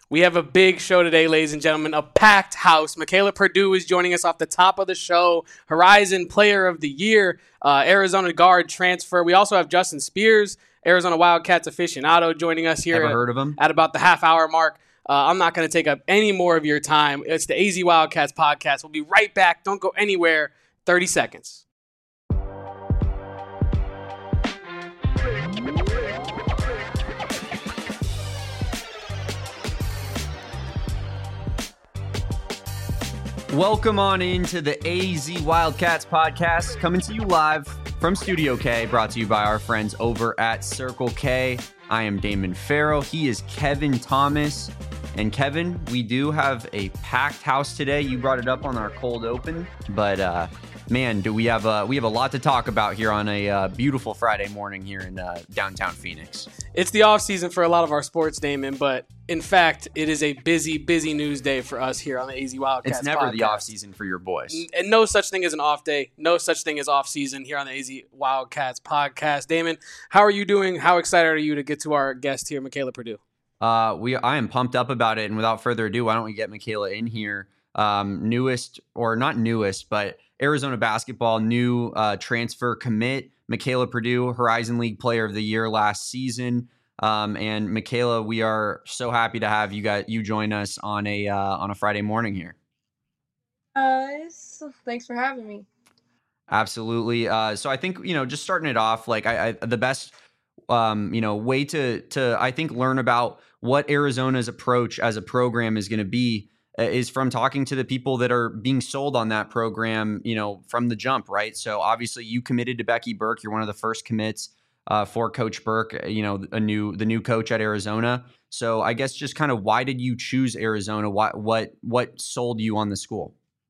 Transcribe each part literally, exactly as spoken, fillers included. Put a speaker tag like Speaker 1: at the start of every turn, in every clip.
Speaker 1: We have a big show today, ladies and gentlemen, a packed house. Michaela Purdue is joining us off the top of the show. Horizon Player of the Year, uh, Arizona guard transfer. We also have Justin Spears, Arizona Wildcats aficionado, joining us here
Speaker 2: Ever
Speaker 1: at,
Speaker 2: heard of him?
Speaker 1: at about the half hour mark. Uh, I'm not going to take up any more of your time. It's the A Z Wildcats podcast. We'll be right back. Don't go anywhere. thirty seconds.
Speaker 2: Welcome on into the A Z Wildcats podcast, coming to you live from Studio K, brought to you by our friends over at Circle K. I am Damon Farrell. He is Kevin Thomas. And Kevin, we do have a packed house today. You brought it up on our cold open, but uh, man, do we have a we have a lot to talk about here on a uh, beautiful Friday morning here in uh, downtown Phoenix.
Speaker 1: It's the off season for a lot of our sports, Damon, but in fact, it is a busy, busy news day for us here on the A Z Wildcats.
Speaker 2: It's never
Speaker 1: podcast.
Speaker 2: the off season for your boys,
Speaker 1: and no such thing as an off day. No such thing as off season here on the A Z Wildcats podcast. Damon, how are you doing? How excited are you to get to our guest here, Michaela Purdue?
Speaker 2: Uh, we I am pumped up about it, and without further ado, why don't we get Michaela in here? Um, newest, or not newest, but Arizona basketball new uh, transfer commit, Michaela Purdue, Horizon League Player of the Year last season. Um, and Michaela, we are so happy to have you got you join us on a uh, on a Friday morning here.
Speaker 3: Guys, thanks for having me.
Speaker 2: Absolutely. Uh, so I think you know, just starting it off, like I, I the best. Um, you know, way to to I think learn about what Arizona's approach as a program is going to be uh, is from talking to the people that are being sold on that program, you know, from the jump, right? So obviously you committed to Becky Burke. You're one of the first commits uh, for Coach Burke, you know, a new the new coach at Arizona. So I guess just kind of why did you choose Arizona? What what what sold you on the school?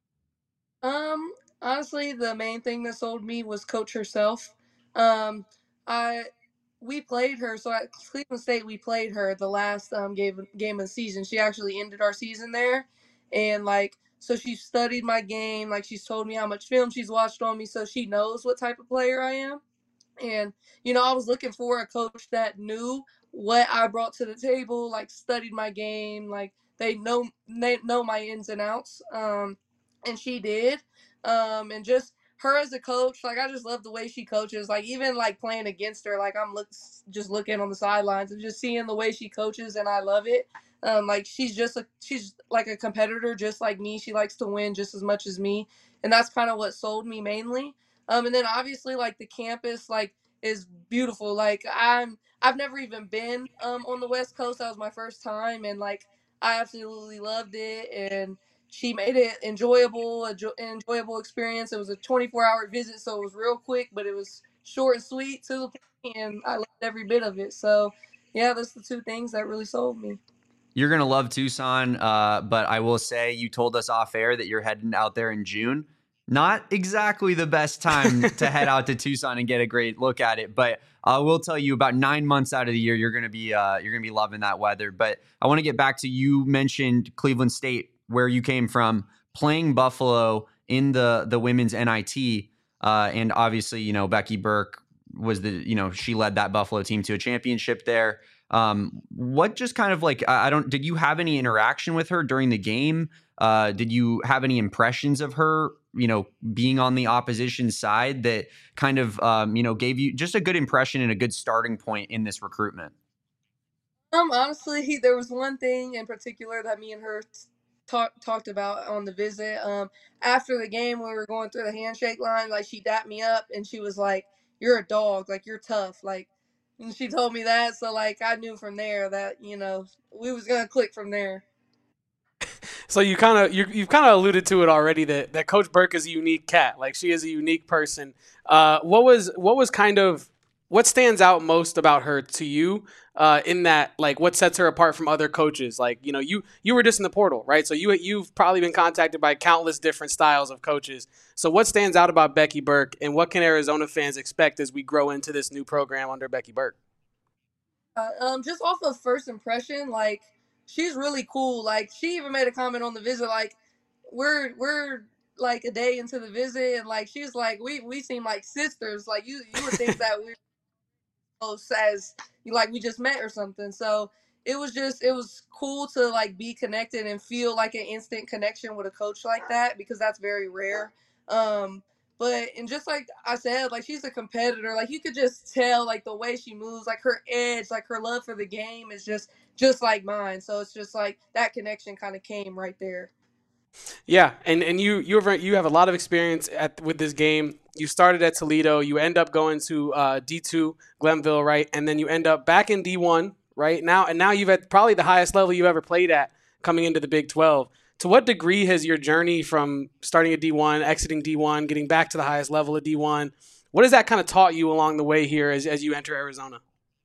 Speaker 3: Um, honestly, the main thing that sold me was Coach herself. Um, I we played her. So at Cleveland State, we played her the last um, game, game of the season. She actually ended our season there. And, like, so she studied my game. Like, she's told me how much film she's watched on me. So she knows what type of player I am. And, you know, I was looking for a coach that knew what I brought to the table, like, studied my game. Like, they know, they know my ins and outs. Um, and she did. Um, and just her as a coach, like I just love the way she coaches. Like even like playing against her, like I'm look just looking on the sidelines and just seeing the way she coaches, and I love it. Um, like she's just a she's like a competitor, just like me. She likes to win just as much as me, and that's kind of what sold me mainly. Um, and then obviously like the campus like is beautiful. Like I'm I've never even been um on the West Coast. That was my first time, and like I absolutely loved it. And she made it enjoyable, an enjoyable experience. It was a twenty-four hour visit, so it was real quick, but it was short and sweet to the point, and I loved every bit of it. So, yeah, that's the two things that really sold me.
Speaker 2: You're going to love Tucson, uh, but I will say you told us off air that you're heading out there in June. Not exactly the best time to head out to Tucson and get a great look at it, but I will tell you about nine months out of the year, you're going to be uh, you're going to be loving that weather. But I want to get back to you mentioned Cleveland State, where you came from, playing Buffalo in the the women's N I T, uh, and obviously you know Becky Burke was the you know she led that Buffalo team to a championship there. Um, what just kind of like I don't did you have any interaction with her during the game? Uh, did you have any impressions of her, you know, being on the opposition side that kind of, um, you know, gave you just a good impression and a good starting point in this recruitment?
Speaker 3: Um, honestly, there was one thing in particular that me and her talked talked about on the visit. Um, after the game, when we were going through the handshake line, like she dapped me up and she was like, "You're a dog, like you're tough," like, and she told me that. So like, I knew from there that you know we was gonna click from there.
Speaker 1: So you kind of you you've kind of alluded to it already that, that Coach Burke is a unique cat. Like she is a unique person. Uh, what was what was kind of what stands out most about her to you uh, in that like what sets her apart from other coaches? Like you know you you were just in the portal, right? So you you've probably been contacted by countless different styles of coaches. So what stands out about Becky Burke, and what can Arizona fans expect as we grow into this new program under Becky Burke?
Speaker 3: Uh, um, just off of first impression, like she's really cool. Like she even made a comment on the visit, like we're we're like a day into the visit, and like she's like we we seem like sisters. Like you you would think that we're close as you like we just met or something. So it was just it was cool to like be connected and feel like an instant connection with a coach like that, because that's very rare. Um, but and just like I said, like she's a competitor. Like you could just tell, like the way she moves, like her edge, like her love for the game is just just like mine. So it's just like that connection kind of came right there.
Speaker 1: Yeah, and and you you have you have a lot of experience at with this game. You started at Toledo. You end up going to uh, D two Glenville, right? And then you end up back in D one, right? Now and now you've at probably the highest level you ever played at coming into the Big twelve. To what degree has your journey from starting at D one, exiting D one, getting back to the highest level of D one, what has that kind of taught you along the way here as as you enter Arizona?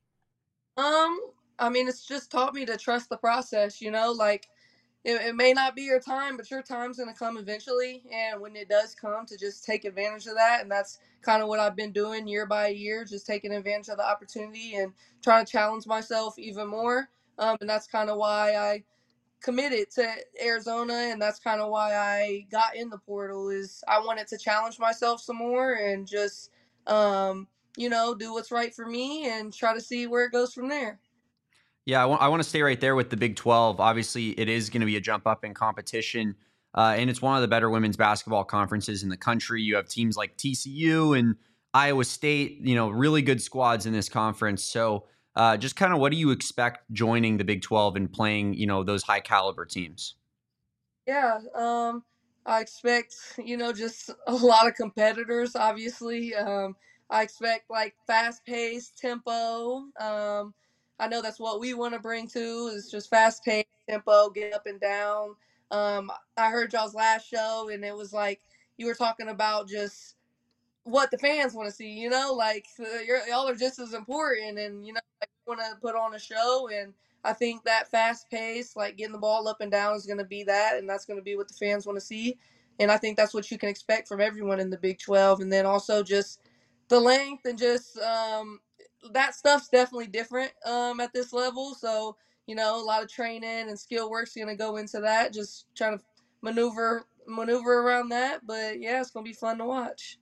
Speaker 3: Um, I mean, it's just taught me to trust the process. You know, like it, it may not be your time, but your time's going to come eventually. And when it does come, to just take advantage of that. And that's kind of what I've been doing year by year, just taking advantage of the opportunity and trying to challenge myself even more. Um, and that's kind of why I committed to Arizona, and that's kind of why I got in the portal. Is I wanted to challenge myself some more and just, um, you know, do what's right for me and try to see where it goes from there.
Speaker 2: Yeah, I want I want to stay right there with the Big twelve. Obviously, it is going to be a jump up in competition, uh, and it's one of the better women's basketball conferences in the country. You have teams like T C U and Iowa State, you know, really good squads in this conference. So, uh, just kind of what do you expect joining the Big twelve and playing, you know, those high caliber teams?
Speaker 3: Yeah, um, I expect, you know, just a lot of competitors, obviously. Um, I expect like fast paced tempo. Um, I know that's what we want to bring to, is just fast paced tempo, get up and down. Um, I heard y'all's last show, and it was like you were talking about just what the fans want to see, you know, like uh, you're, y'all are just as important, and you know, like, want to put on a show. And I think that fast pace, like getting the ball up and down, is going to be that, and that's going to be what the fans want to see. And I think that's what you can expect from everyone in the Big twelve. And then also just the length and just um, that stuff's definitely different um, at this level. So you know, a lot of training and skill work's going to go into that. Just trying to maneuver maneuver around that. But yeah, it's going to be fun to watch.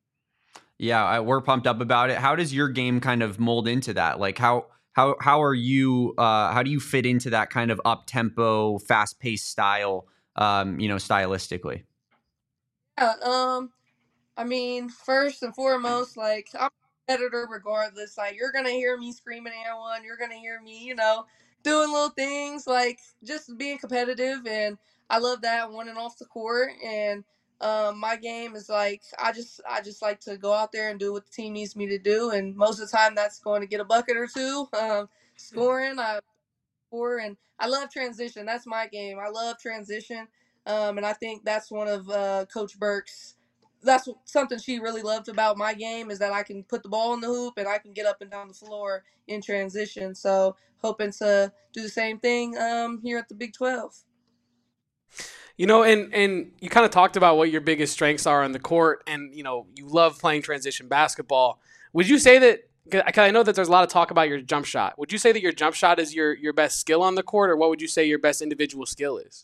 Speaker 2: Yeah, I, we're pumped up about it. How does your game kind of mold into that? Like how how how are you? Uh, how do you fit into that kind of up tempo, fast paced style? Um, you know, stylistically.
Speaker 3: Yeah, um, I mean, first and foremost, like I'm a competitor regardless. Like you're gonna hear me screaming at one, you're gonna hear me, you know, doing little things like just being competitive, and I love that on and off the court. And um, my game is like I just I just like to go out there and do what the team needs me to do, and most of the time that's going to get a bucket or two. Um, scoring, I for, and I love transition. That's my game. I love transition, um, and I think that's one of uh, Coach Burke's. That's something she really loved about my game, is that I can put the ball in the hoop and I can get up and down the floor in transition. So hoping to do the same thing um, here at the Big twelve.
Speaker 1: You know, and and you kind of talked about what your biggest strengths are on the court, and you know, you love playing transition basketball. Would you say that? Because I know that there's a lot of talk about your jump shot. Would you say that your jump shot is your your best skill on the court, or what would you say your best individual skill is?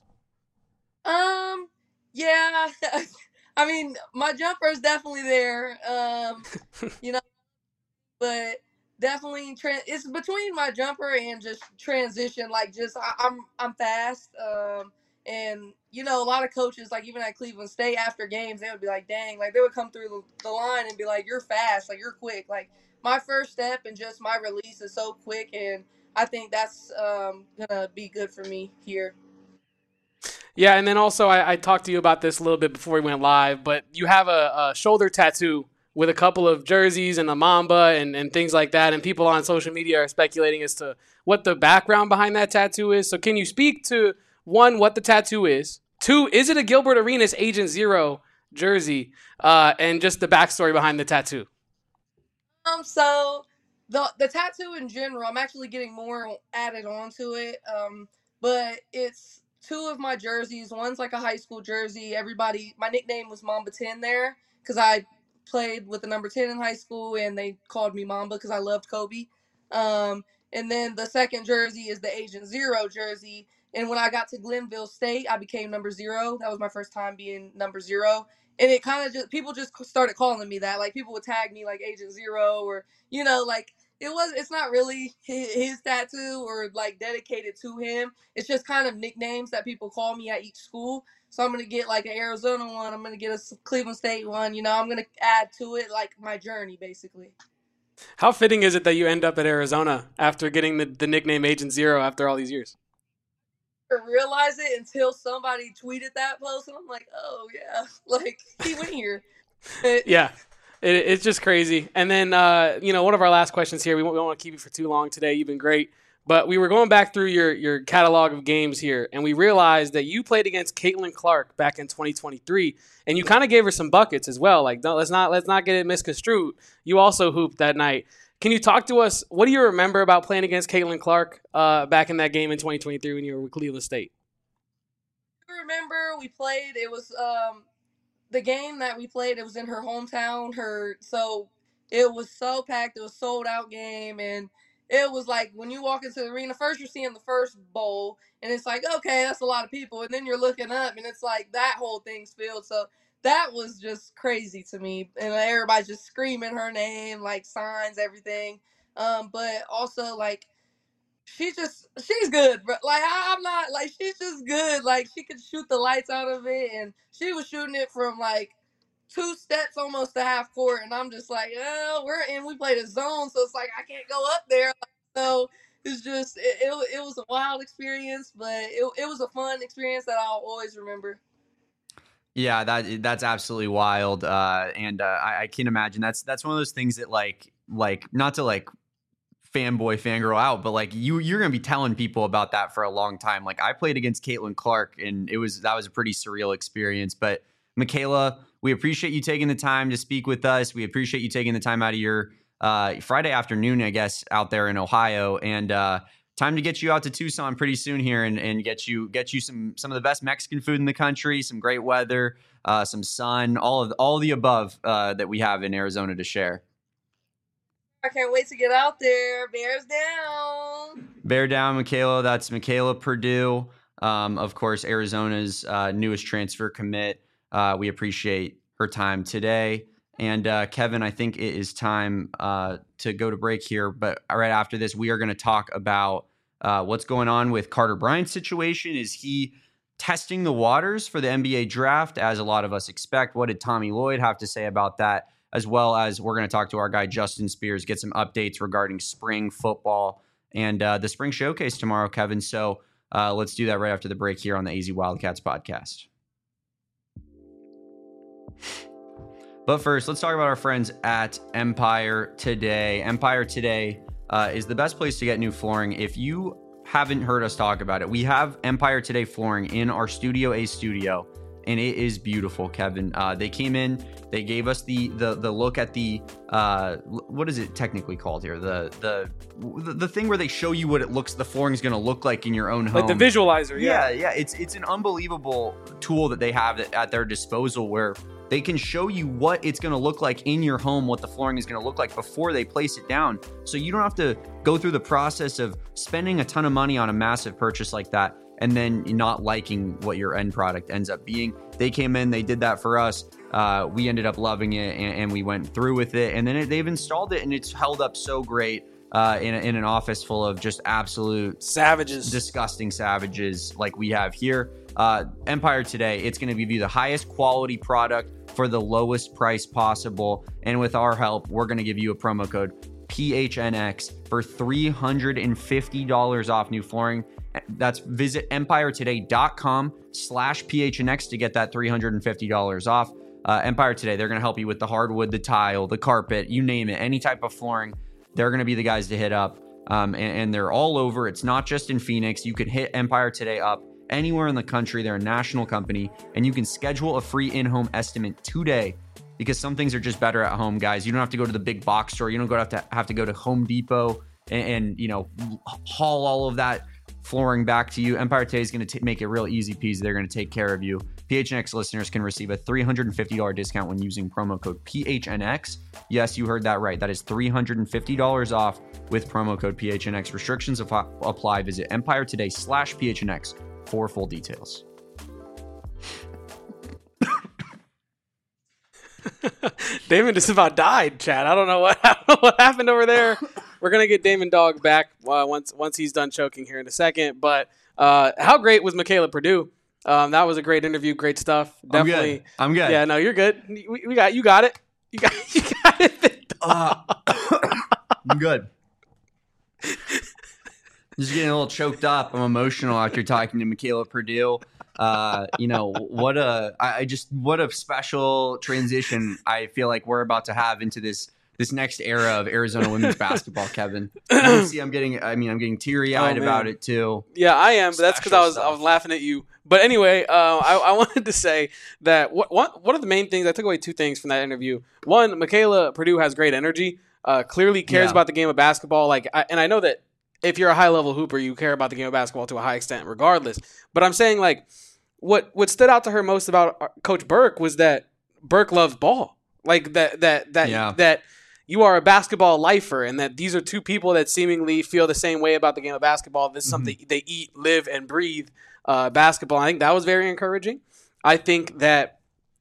Speaker 3: Um, yeah, I mean, my jumper is definitely there. Um, you know, but definitely tra- it's between my jumper and just transition. Like just I, I'm I'm fast. Um, and you know, a lot of coaches, like even at Cleveland State, after games they would be like, "Dang!" Like they would come through the, the line and be like, "You're fast. Like you're quick." Like my first step and just my release is so quick, and I think that's um, gonna be good for me here.
Speaker 1: Yeah, and then also I, I talked to you about this a little bit before we went live, but you have a, a shoulder tattoo with a couple of jerseys and a mamba and, and things like that, and people on social media are speculating as to what the background behind that tattoo is. So can you speak to, one, what the tattoo is? Two, is it a Gilbert Arenas Agent Zero jersey? Uh, and just the backstory behind the tattoo.
Speaker 3: Um, so the the tattoo in general, I'm actually getting more added onto it. Um, but it's two of my jerseys. One's like a high school jersey. Everybody, my nickname was Mamba Ten there because I played with the number ten in high school, and they called me Mamba because I loved Kobe. Um, and then the second jersey is the Agent Zero jersey. And when I got to Glenville State, I became number zero. That was my first time being number zero, and it kind of just people just started calling me that. Like people would tag me like Agent Zero, or you know, like it was. It's not really his, his tattoo or like dedicated to him. It's just kind of nicknames that people call me at each school. So I'm gonna get like an Arizona one. I'm gonna get a Cleveland State one. You know, I'm gonna add to it like my journey basically.
Speaker 1: How fitting is it that you end up at Arizona after getting the, the nickname Agent Zero after all these years?
Speaker 3: I didn't realize it until somebody tweeted that post, and I'm like, oh yeah, like he went here. It,
Speaker 1: Yeah. It, it's just crazy. And then, uh, you know, one of our last questions here, we won't, we don't want to keep you for too long today. You've been great. But we were going back through your, your catalog of games here, and we realized that you played against Caitlin Clark back in twenty twenty-three, and you kind of gave her some buckets as well. Like, don't, let's not let's not get it misconstrued. You also hooped that night. Can you talk to us? What do you remember about playing against Caitlin Clark uh, back in that game in twenty twenty-three when you were with Cleveland State?
Speaker 3: I remember we played. It was um, the game that we played. It was in her hometown. Her so it was so packed. It was a sold out game, and it was like when you walk into the arena, first you're seeing the first bowl, and it's like, okay, that's a lot of people, and then you're looking up, and it's like that whole thing's filled. So that was just crazy to me, and everybody's just screaming her name, like signs, everything. Um, but also like she's just she's good, bro. Like I, I'm not like she's just good. Like she could shoot the lights out of it, and she was shooting it from like two steps almost to half court, and I'm just like, oh, we're in. We played a zone, so it's like I can't go up there. So it's just it, it, it was a wild experience, but it it was a fun experience that I'll always remember.
Speaker 2: Yeah, that that's absolutely wild, uh, and uh, I, I can imagine that's that's one of those things that like like not to like fanboy fangirl out, but like you you're gonna be telling people about that for a long time. Like I played against Caitlin Clark, and it was that was a pretty surreal experience. But Michaela, we appreciate you taking the time to speak with us. We appreciate you taking the time out of your uh, Friday afternoon, I guess, out there in Ohio, and uh, time to get you out to Tucson pretty soon here, and, and get you get you some some of the best Mexican food in the country, some great weather, uh, some sun, all of all of the above uh, that we have in Arizona to share.
Speaker 3: I can't wait to get out there. Bears down.
Speaker 2: Bear down, Michaela. That's Michaela Purdue. Um, of course, Arizona's uh, newest transfer commit. Uh, we appreciate her time today. And uh, Kevin, I think it is time uh, to go to break here. But right after this, we are going to talk about uh, what's going on with Carter Bryant's situation. Is he testing the waters for the N B A draft, as a lot of us expect? What did Tommy Lloyd have to say about that? As well as we're going to talk to our guy, Justin Spears, get some updates regarding spring football and uh, the spring showcase tomorrow, Kevin. So uh, let's do that right after the break here on the A Z Wildcats podcast. But first, let's talk about our friends at Empire Today. Empire Today uh, is the best place to get new flooring. If you haven't heard us talk about it, we have Empire Today flooring in our Studio A studio, and it is beautiful, Kevin. Uh, they came in, they gave us the the the look at the uh, what is it technically called here? The the the thing where they show you what it looks, the flooring is going to look like in your own home.
Speaker 1: Like the visualizer, yeah.
Speaker 2: Yeah, yeah. It's it's an unbelievable tool that they have at their disposal, where they can show you what it's going to look like in your home, what the flooring is going to look like before they place it down. So you don't have to go through the process of spending a ton of money on a massive purchase like that and then not liking what your end product ends up being. They came in, they did that for us. Uh, we ended up loving it, and, and we went through with it. And then it, they've installed it, and it's held up so great uh, in, a, in an office full of just absolute
Speaker 1: savages,
Speaker 2: disgusting savages like we have here. Uh, Empire Today, it's going to give you the highest quality product for the lowest price possible. And with our help, we're going to give you a promo code P H N X for three hundred fifty dollars off new flooring. That's visit empiretoday.com slash PHNX to get that three hundred fifty dollars off. Uh, Empire Today, they're going to help you with the hardwood, the tile, the carpet, you name it, any type of flooring. They're going to be the guys to hit up. Um, and, and they're all over. It's not just in Phoenix. You can hit Empire Today up anywhere in the country. They're a national company, and you can schedule a free in-home estimate today, because some things are just better at home, guys. You don't have to go to the big box store. You don't go have to have to go to Home Depot and, and you know, haul all of that flooring back to you. Empire Today is going to make it real easy peasy. They're going to take care of you. P H N X listeners can receive a three hundred fifty dollars discount when using promo code P H N X. Yes, you heard that right. That is three hundred fifty dollars off with promo code P H N X. Restrictions apply. Visit Empire Today slash P H N X for full details.
Speaker 1: Damon just about died, Chad. I don't know what, I don't know what happened over there. we're gonna get Damon Dog back uh, once once he's done choking here in a second. But uh, how great was Michaela Purdue? Um, that was a great interview, great stuff. Definitely,
Speaker 2: I'm good. I'm good.
Speaker 1: Yeah, no, you're good. We, we got you. Got it. You got you got it.
Speaker 2: Uh, I'm good. Just getting a little choked up. I'm emotional after talking to Michaela Purdue. Uh, you know what a I I just what a special transition I feel like we're about to have into this this next era of Arizona women's basketball, Kevin. You see, I'm getting I mean I'm getting teary eyed
Speaker 1: Oh,
Speaker 2: about
Speaker 1: man.
Speaker 2: it too.
Speaker 1: Yeah, I am, but that's because I
Speaker 2: Special
Speaker 1: was
Speaker 2: stuff.
Speaker 1: I was laughing at you. But anyway, uh, I, I wanted to say that what one one of the main things I took away two things from that interview. One, Michaela Purdue has great energy. Uh, clearly cares
Speaker 2: Yeah.
Speaker 1: about the game of basketball. Like, I, and I know that if you're a high level hooper, you care about the game of basketball to a high extent, regardless. But I'm saying like, what what stood out to her most about uh, Coach Burke was that Burke loves ball. Like that that that
Speaker 2: Yeah.
Speaker 1: that. You are a basketball lifer, and that these are two people that seemingly feel the same way about the game of basketball. This is something they eat, live, and breathe uh, basketball. I think that was very encouraging. I think that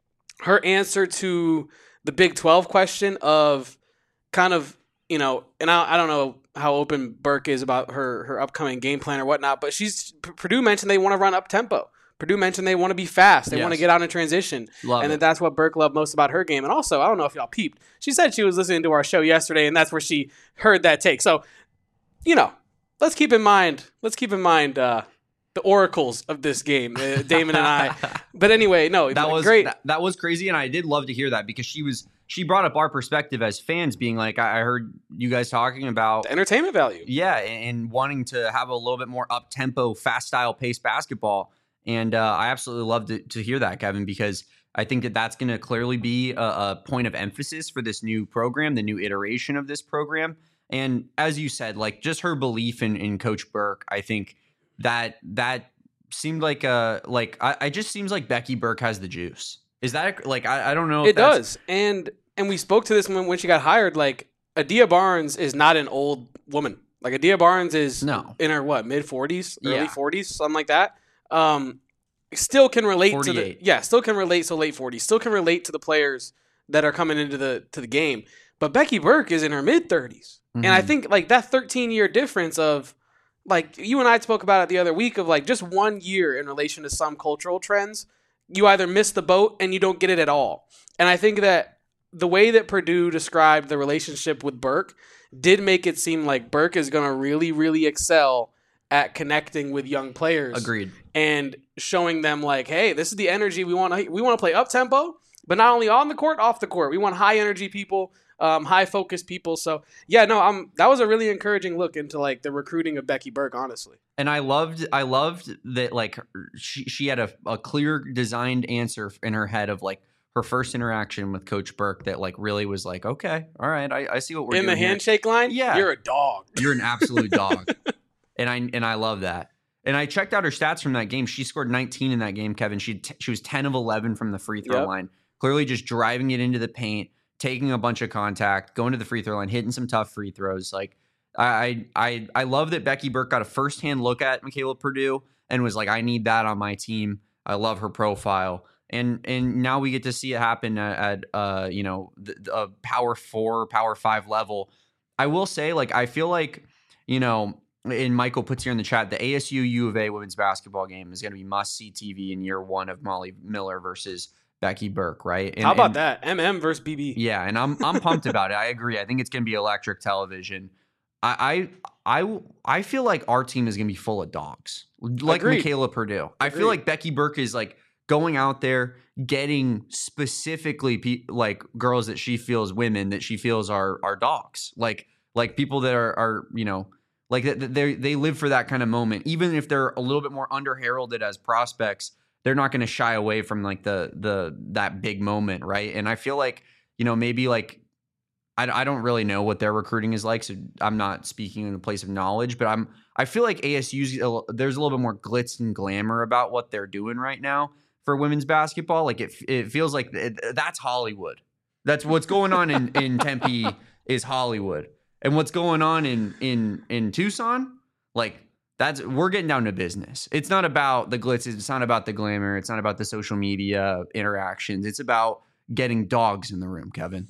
Speaker 1: her answer to the Big twelve question of kind of, you know, and I, I don't know how open Burke is about her, her upcoming game plan or whatnot, but she's Purdue mentioned they want to run up tempo. Purdue mentioned they want to be fast. They
Speaker 2: Yes.
Speaker 1: want to get out in transition.
Speaker 2: Love
Speaker 1: and
Speaker 2: it.
Speaker 1: that that's what Burke loved most about her game. And also, I don't know if y'all peeped. She said she was listening to our show yesterday, and that's where she heard that take. So, you know, let's keep in mind, let's keep in mind uh, the oracles of this game, uh, Damon and I. But anyway, no,
Speaker 2: that was
Speaker 1: great.
Speaker 2: That, that was crazy, and I did love to hear that because she was she brought up our perspective as fans, being like, I I heard you guys talking about
Speaker 1: The entertainment value.
Speaker 2: yeah, and, and wanting to have a little bit more up tempo, fast style pace basketball. And uh, I absolutely love to, to hear that, Kevin, because I think that that's going to clearly be a, a point of emphasis for this new program, the new iteration of this program. And as you said, like just her belief in, in Coach Burke, I think that that seemed like a like I, I just seems like Becky Burke has the juice. Is that like I, I don't know? If
Speaker 1: It
Speaker 2: that's,
Speaker 1: does. And and we spoke to this when, when she got hired. Like, Adia Barnes is not an old woman. Like, Adia Barnes is
Speaker 2: No.
Speaker 1: in her, what, mid-forties, early
Speaker 2: Yeah.
Speaker 1: forties, something like that. Um, still can relate to the
Speaker 2: forty-eight.
Speaker 1: yeah, still can relate so late forties. Still can relate to the players that are coming into the to the game. But Becky Burke is in her mid-thirties. And I
Speaker 2: Mhm.
Speaker 1: think like that thirteen-year difference of like you and I spoke about it the other week of like just one year in relation to some cultural trends, you either miss the boat and you don't get it at all. And I think that the way that Purdue described the relationship with Burke did make it seem like Burke is going to really, really excel at connecting with young players.
Speaker 2: Agreed.
Speaker 1: And showing them like, hey, this is the energy we want to we want to play up tempo, but not only on the court, off the court. We want high energy people, um, high focus people. So yeah, no, um, that was a really encouraging look into like the recruiting of Becky Burke, honestly.
Speaker 2: And I loved, I loved that like she she had a, a clear designed answer in her head of like her first interaction with Coach Burke that like really was like, okay, all right, I, I see what we're
Speaker 1: In the
Speaker 2: doing here.
Speaker 1: handshake line,
Speaker 2: Yeah.
Speaker 1: you're a dog.
Speaker 2: You're an absolute dog, and I and I love that. And I checked out her stats from that game. She scored nineteen in that game, Kevin. She t- she was ten of eleven from the free throw
Speaker 1: Yep.
Speaker 2: line, clearly just driving it into the paint, taking a bunch of contact, going to the free throw line, hitting some tough free throws. Like I I I love that Becky Burke got a firsthand look at Michaela Purdue and was like, I need that on my team. I love her profile. And and now we get to see it happen at, at uh you know the, the uh, power four, power five level. I will say, like, I feel like, you know, and Michael puts here in the chat, the A S U U of A women's basketball game is going to be must see T V in year one of Molly Miller versus Becky Burke, right? And,
Speaker 1: How about
Speaker 2: and,
Speaker 1: that? M M versus B B.
Speaker 2: Yeah, and I'm I'm pumped about it. I agree. I think it's going to be electric television. I I I, I feel like our team is going to be full of dogs, like
Speaker 1: Agreed.
Speaker 2: Michaela Purdue. I feel
Speaker 1: Agreed.
Speaker 2: like Becky Burke is like going out there getting specifically pe- like girls that she feels women that she feels are are dogs, like like people that are are you know like they they live for that kind of moment, even if they're a little bit more under heralded as prospects. They're not going to shy away from like the the that big moment, right? And I feel like, you know, maybe like I, I don't really know what their recruiting is like, so I'm not speaking in a place of knowledge, but I'm I feel like A S U's there's a little bit more glitz and glamour about what they're doing right now for women's basketball. Like it it feels like it, that's Hollywood. That's what's going on in in Tempe is Hollywood, and what's going on in in in Tucson, like. That's we're getting down to business. It's not about the glitz. It's not about the glamour. It's not about the social media interactions. It's about getting dogs in the room, Kevin.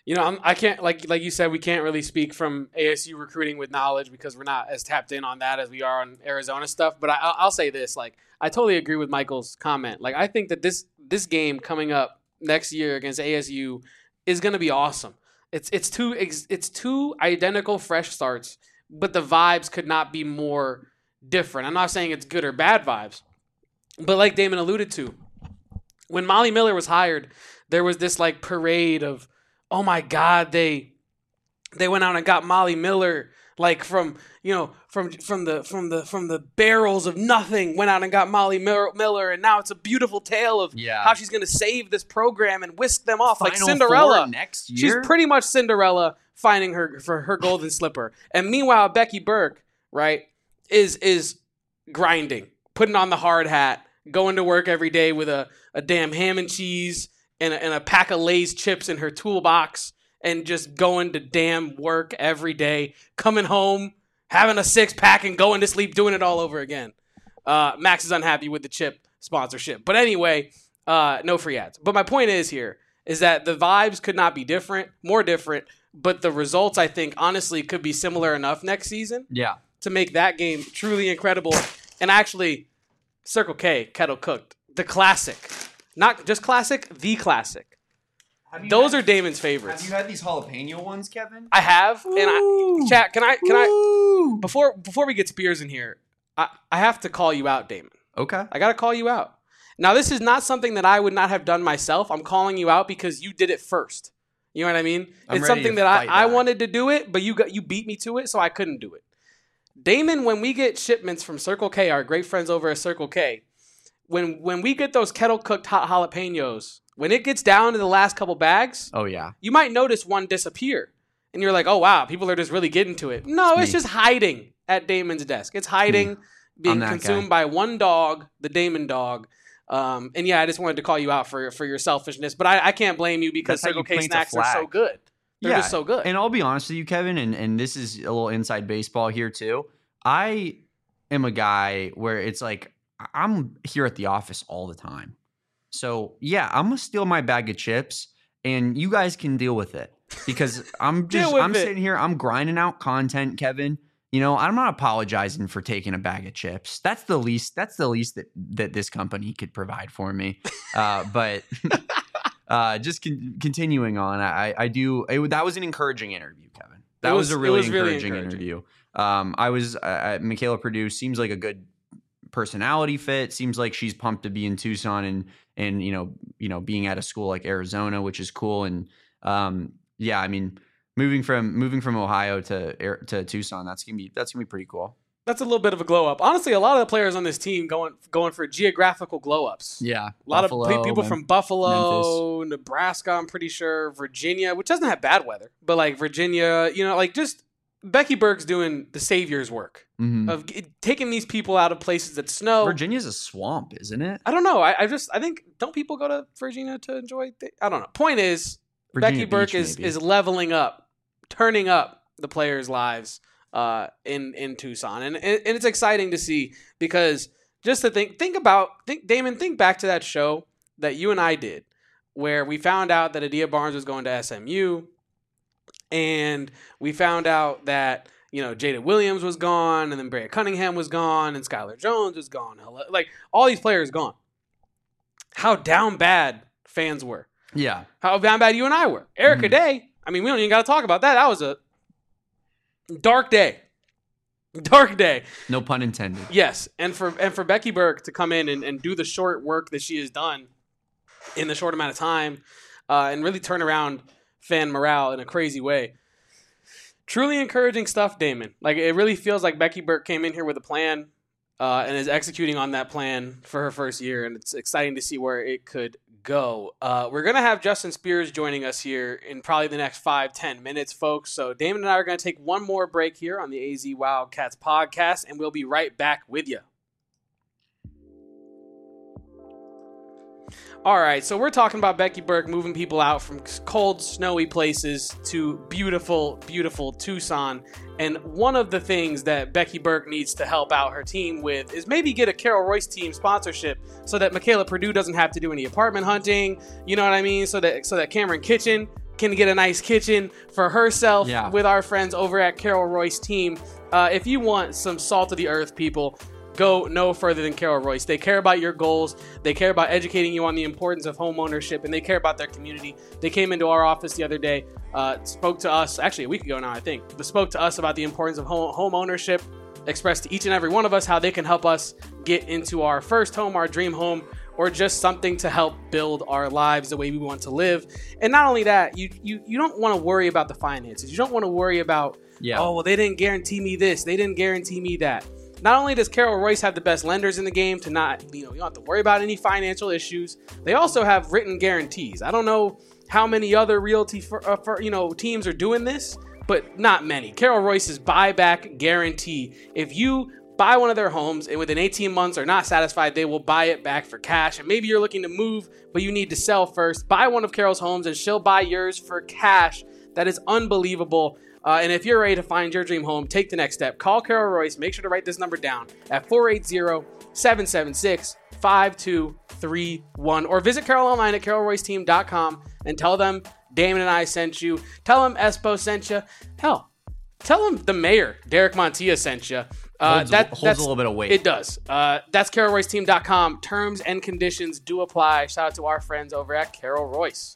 Speaker 1: You know, I'm, I can't like like you said, we can't really speak from A S U recruiting with knowledge because we're not as tapped in on that as we are on Arizona stuff. But I, I'll, I'll say this: like, I totally agree with Michael's comment. Like, I think that this this game coming up next year against A S U is going to be awesome. It's it's two it's two identical fresh starts, but the vibes could not be more different. I'm not saying it's good or bad vibes, but like Damon alluded to, when Molly Miller was hired, there was this like parade of, oh my God, they they went out and got Molly Miller, like from you know from from the from the from the barrels of nothing, went out and got Molly Miller, and now it's a beautiful tale of
Speaker 2: yeah.
Speaker 1: how she's going to save this program and whisk them off
Speaker 2: Final
Speaker 1: like Cinderella
Speaker 2: Four next year.
Speaker 1: She's pretty much Cinderella finding her for her golden slipper, and meanwhile Becky Burke, right, is is grinding, putting on the hard hat, going to work every day with a a damn ham and cheese. And a, and a pack of Lay's chips in her toolbox and just going to damn work every day, coming home, having a six pack and going to sleep, doing it all over again. Uh, Max is unhappy with the chip sponsorship. But anyway, uh, no free ads. But my point is here is that the vibes could not be different, more different, but the results, I think, honestly, could be similar enough next season
Speaker 2: yeah.
Speaker 1: to make that game truly incredible. And actually, Circle K, Kettle Cooked, the classic. Not just classic, the classic. Those
Speaker 2: had,
Speaker 1: are Damon's favorites.
Speaker 2: Have you had these jalapeno ones, Kevin?
Speaker 1: I have,
Speaker 2: Ooh.
Speaker 1: and I chat. Can I? Can
Speaker 2: Ooh.
Speaker 1: I? Before before we get Spears in here, I, I have to call you out, Damon.
Speaker 2: Okay.
Speaker 1: I gotta call you out. Now, this is not something that I would not have done myself. I'm calling you out because you did it first. You know what I mean?
Speaker 2: I'm
Speaker 1: it's
Speaker 2: ready
Speaker 1: something
Speaker 2: to
Speaker 1: that I,
Speaker 2: fight
Speaker 1: I
Speaker 2: back.
Speaker 1: wanted to do it, but you got you beat me to it, so I couldn't do it. Damon, when we get shipments from Circle K, our great friends over at Circle K. When when we get those kettle cooked hot jalapenos, when it gets down to the last couple bags,
Speaker 2: oh yeah,
Speaker 1: you might notice one disappear, and you're like, "Oh wow, people are just really getting to it." No,
Speaker 2: It's
Speaker 1: it's,
Speaker 2: me.
Speaker 1: just hiding at Damon's desk. It's hiding, being
Speaker 2: that
Speaker 1: consumed
Speaker 2: guy.
Speaker 1: by one dog, the Damon dog. Um, and yeah, I just wanted to call you out for for your selfishness, but I, I can't blame you because
Speaker 2: That's how
Speaker 1: Circle
Speaker 2: you
Speaker 1: K
Speaker 2: plant a
Speaker 1: snacks are so
Speaker 2: flag.
Speaker 1: good. They're
Speaker 2: yeah.
Speaker 1: just so good.
Speaker 2: And I'll be honest with you, Kevin, and and this is a little inside baseball here too. I am a guy where it's like, I'm here at the office all the time. So, yeah, I'm going to steal my bag of chips and you guys can deal with it because I'm
Speaker 1: Deal
Speaker 2: just,
Speaker 1: with
Speaker 2: I'm
Speaker 1: it.
Speaker 2: sitting here, I'm grinding out content, Kevin. You know, I'm not apologizing for taking a bag of chips. That's the least, that's the least that, that this company could provide for me. Uh, but uh, just con- continuing on, I, I do, it, that was an encouraging interview, Kevin. That
Speaker 1: It
Speaker 2: was,
Speaker 1: was-
Speaker 2: a
Speaker 1: it
Speaker 2: really
Speaker 1: was really
Speaker 2: encouraging,
Speaker 1: encouraging.
Speaker 2: interview. Um, I was, uh, Michaela Purdue seems like a good personality fit. Seems like she's pumped to be in Tucson and and you know you know being at a school like Arizona, which is cool. And um, yeah, I mean moving from moving from Ohio to Air- to Tucson, that's gonna be that's gonna be pretty cool.
Speaker 1: That's a little bit of a glow up. Honestly, a lot of the players on this team going going for geographical glow ups.
Speaker 2: Yeah,
Speaker 1: A lot
Speaker 2: Buffalo,
Speaker 1: of pe- people
Speaker 2: Mem-
Speaker 1: from Buffalo, Nebraska, I'm pretty sure, Virginia, which doesn't have bad weather, but like Virginia, you know, like just Becky Burke's doing the savior's work
Speaker 2: Mhm.
Speaker 1: of g- taking these people out of places that snow.
Speaker 2: Virginia's a swamp, isn't it?
Speaker 1: I don't know. I, I just I think don't people go to Virginia to enjoy? Th- I don't know. Point is,
Speaker 2: Virginia
Speaker 1: Becky Burke
Speaker 2: Beach,
Speaker 1: is
Speaker 2: maybe.
Speaker 1: is leveling up, turning up the players' lives uh, in in Tucson, and, and and it's exciting to see because just to think think about think Damon think back to that show that you and I did where we found out that Adia Barnes was going to S M U, and we found out that you know Jada Williams was gone, and then Brea Cunningham was gone, and Skylar Jones was gone. Like all these players gone. How down bad fans were.
Speaker 2: Yeah,
Speaker 1: How down bad you and I were. Erica
Speaker 2: Mhm.
Speaker 1: Day, I mean, we don't even got to talk about that. That was a dark day. Dark day.
Speaker 2: no pun intended.
Speaker 1: Yes. And for and for Becky Burke to come in and, and do the short work that she has done in the short amount of time uh, and really turn around fan morale in a crazy way. Truly encouraging stuff, Damon. Like, it really feels like Becky Burke came in here with a plan uh, and is executing on that plan for her first year, and it's exciting to see where it could go. Uh, we're going to have Justin Spears joining us here in probably the next five, ten minutes, folks. So Damon and I are going to take one more break here on the A Z Wildcats podcast, and we'll be right back with you. All right, so we're talking about Becky Burke moving people out from cold, snowy places to beautiful, beautiful Tucson. And one of the things that Becky Burke needs to help out her team with is maybe get a Carol Royce team sponsorship so that Michaela Purdue doesn't have to do any apartment hunting. You know what I mean? So that so that Cameron Kitchen can get a nice kitchen for herself
Speaker 2: Yeah.
Speaker 1: with our friends over at Carol Royce Team. Uh, if you want some salt of the earth, people, go no further than Carol Royce. They care about your goals. They care about educating you on the importance of home ownership, and they care about their community. They came into our office the other day, uh, spoke to us, actually a week ago now, I think, but spoke to us about the importance of home, home ownership, expressed to each and every one of us how they can help us get into our first home, our dream home, or just something to help build our lives the way we want to live. And not only that, you you, you don't want to worry about the finances. You don't want to worry about,
Speaker 2: Yeah.
Speaker 1: oh, well, they didn't guarantee me this. They didn't guarantee me that. Not only does Carol Royce have the best lenders in the game to not, you know, you don't have to worry about any financial issues. They also have written guarantees. I don't know how many other realty, for, uh, for, you know, teams are doing this, but not many. Carol Royce's buyback guarantee. If you buy one of their homes and within eighteen months are not satisfied, they will buy it back for cash. And maybe you're looking to move, but you need to sell first. Buy one of Carol's homes and she'll buy yours for cash. That is unbelievable. Uh, and if you're ready to find your dream home, take the next step. Call Carol Royce. Make sure to write this number down at four eight zero, seven seven six, five two three one. Or visit Carol online at carol royce team dot com and tell them Damon and I sent you. Tell them Espo sent you. Hell, tell them the mayor, Derek Montilla, sent you. Uh,
Speaker 2: holds,
Speaker 1: that,
Speaker 2: holds
Speaker 1: that's,
Speaker 2: a little bit of weight.
Speaker 1: It does. Uh, that's carol royce team dot com. Terms and conditions do apply. Shout out to our friends over at Carol Royce.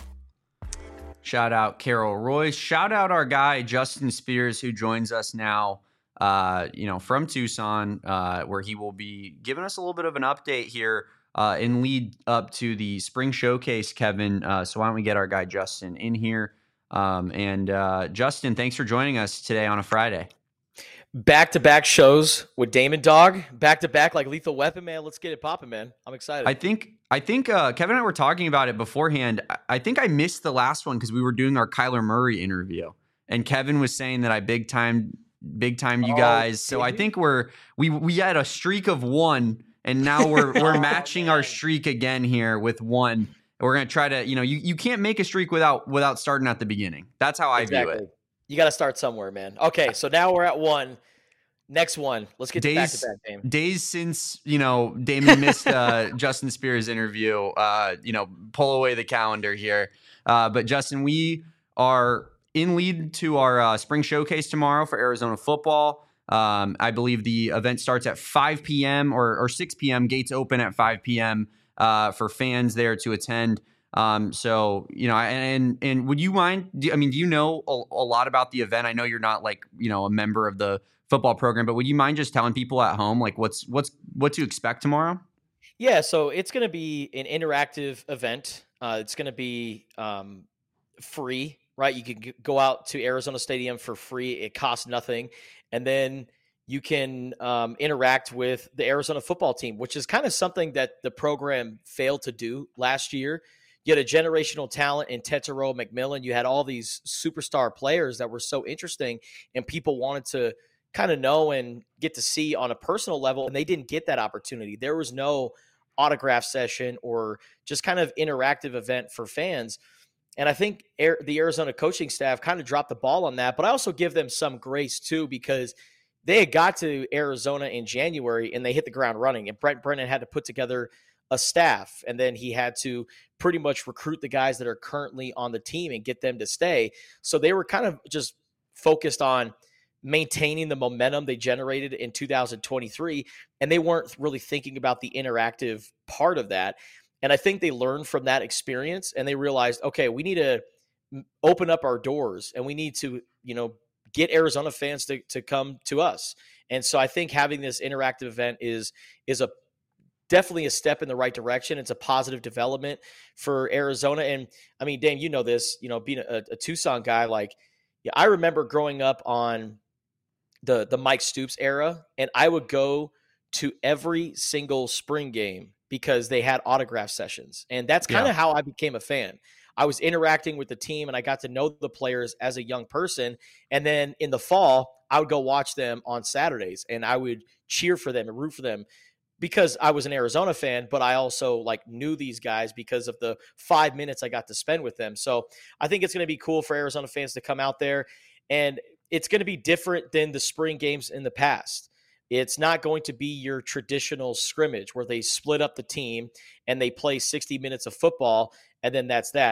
Speaker 2: Shout out Carol Royce. Shout out our guy Justin Spears, who joins us now, uh, you know, from Tucson, uh, where he will be giving us a little bit of an update here uh, in lead up to the spring showcase, Kevin. Uh, so why don't we get our guy Justin in here? Um, and uh, Justin, thanks for joining us today on a Friday.
Speaker 4: Back-to-back shows with Damon Dog. Back-to-back like Lethal Weapon, man. Let's get it popping, man. I'm excited.
Speaker 2: I think I think uh, Kevin and I were talking about it beforehand. I, I think I missed the last one because we were doing our Kyler Murray interview, and Kevin was saying that I big time, big time you
Speaker 4: Oh,
Speaker 2: guys. So
Speaker 4: did
Speaker 2: I
Speaker 4: you?
Speaker 2: think we're we we had a streak of one, and now we're we're
Speaker 4: Oh,
Speaker 2: matching our
Speaker 4: man.
Speaker 2: streak again here with one. We're gonna try to, you know, you, you can't make a streak without without starting at the beginning. That's how I view it.
Speaker 4: You got to start somewhere, man. Okay, so now we're at one. Next one. Let's get to
Speaker 2: Days-
Speaker 4: back-to-back, Dame.
Speaker 2: Days since, you know, Damon missed uh, Justin Spears' interview, uh, you know, pull away the calendar here. Uh, but Justin, we are in lead to our uh, spring showcase tomorrow for Arizona football. Um, I believe the event starts at five p.m. or, or six p.m. Gates open at five p.m. Uh, for fans there to attend. Um, so, you know, and and would you mind? Do, I mean, do you know a, a lot about the event? I know you're not like, you know, a member of the football program, but would you mind just telling people at home like what's what's what to expect tomorrow?
Speaker 4: Yeah, so it's going to be an interactive event. Uh, it's going to be um, free, right? You can g- go out to Arizona Stadium for free. It costs nothing. And then you can um, interact with the Arizona football team, which is kind of something that the program failed to do last year. You had a generational talent in Tetero McMillan. You had all these superstar players that were so interesting, and people wanted to kind of know and get to see on a personal level, and they didn't get that opportunity. There was no autograph session or just kind of interactive event for fans. And I think Air, the Arizona coaching staff kind of dropped the ball on that, but I also give them some grace too, because they had got to Arizona in January and they hit the ground running, and Brent Brennan had to put together a staff, and then he had to pretty much recruit the guys that are currently on the team and get them to stay. So they were kind of just focused on maintaining the momentum they generated in two thousand twenty-three, and they weren't really thinking about the interactive part of that. And I think they learned from that experience, and they realized, okay, we need to open up our doors, and we need to, you know, get Arizona fans to, to come to us. And so I think having this interactive event is is a definitely a step in the right direction. It's a positive development for Arizona. And I mean, Dame, you know this, you know, being a, a Tucson guy, like, yeah, I remember growing up on the the Mike Stoops era, and I would go to every single spring game because they had autograph sessions. And that's kind of
Speaker 2: Yeah.
Speaker 4: how I became a fan. I was interacting with the team, and I got to know the players as a young person. And then in the fall, I would go watch them on Saturdays, and I would cheer for them and root for them because I was an Arizona fan, but I also like knew these guys because of the five minutes I got to spend with them. So I think it's going to be cool for Arizona fans to come out there, and it's going to be different than the spring games in the past. It's not going to be your traditional scrimmage where they split up the team and they play sixty minutes of football, and then that's that.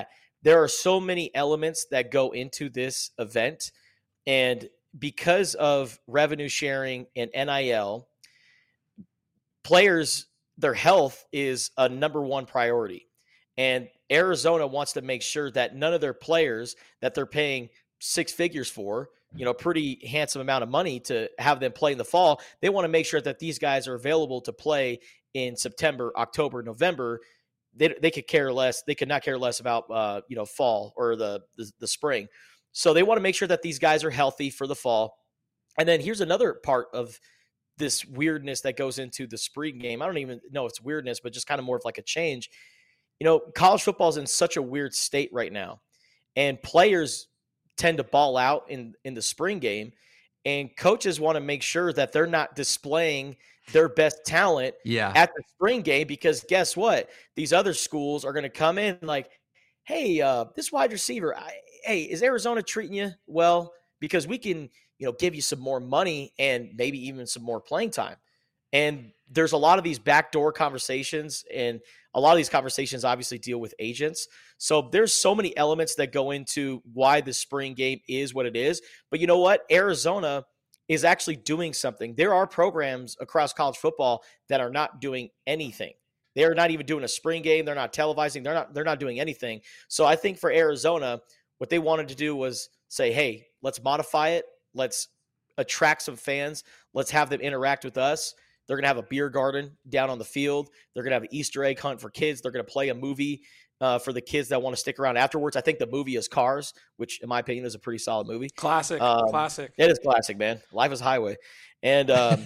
Speaker 4: there are so many elements that go into this event. And because of revenue sharing and N I L, players, their health is a number one priority. And Arizona wants to make sure that none of their players that they're paying six figures for, you know, pretty handsome amount of money to have them play in the fall, they want to make sure that these guys are available to play in September, October, November. They, they could care less. They could not care less about, uh, you know, fall or the, the the spring. So they want to make sure that these guys are healthy for the fall. And then here's another part of this weirdness that goes into the spring game. I don't even know if it's weirdness, but just kind of more of like a change. You know, college football is in such a weird state right now, and players tend to ball out in, in the spring game, and coaches want to make sure that they're not displaying their best talent
Speaker 2: yeah.
Speaker 4: at the spring game, because guess what? These other schools are going to come in like, hey, uh, this wide receiver, I, hey, is Arizona treating you well? Because we can, you know, give you some more money and maybe even some more playing time. And there's a lot of these backdoor conversations, and a lot of these conversations obviously deal with agents. So there's so many elements that go into why the spring game is what it is. But you know what? Arizona is actually doing something. There are programs across college football that are not doing anything. They're not even doing a spring game. They're not televising. They're not, they're not doing anything. So I think for Arizona, what they wanted to do was say, hey, let's modify it. Let's attract some fans. Let's have them interact with us. They're going to have a beer garden down on the field. They're going to have an Easter egg hunt for kids. They're going to play a movie uh, for the kids that want to stick around afterwards. I think the movie is Cars, which in my opinion is a pretty solid movie.
Speaker 1: Classic,
Speaker 4: um,
Speaker 1: classic.
Speaker 4: It is classic, man. Life is Highway. And um,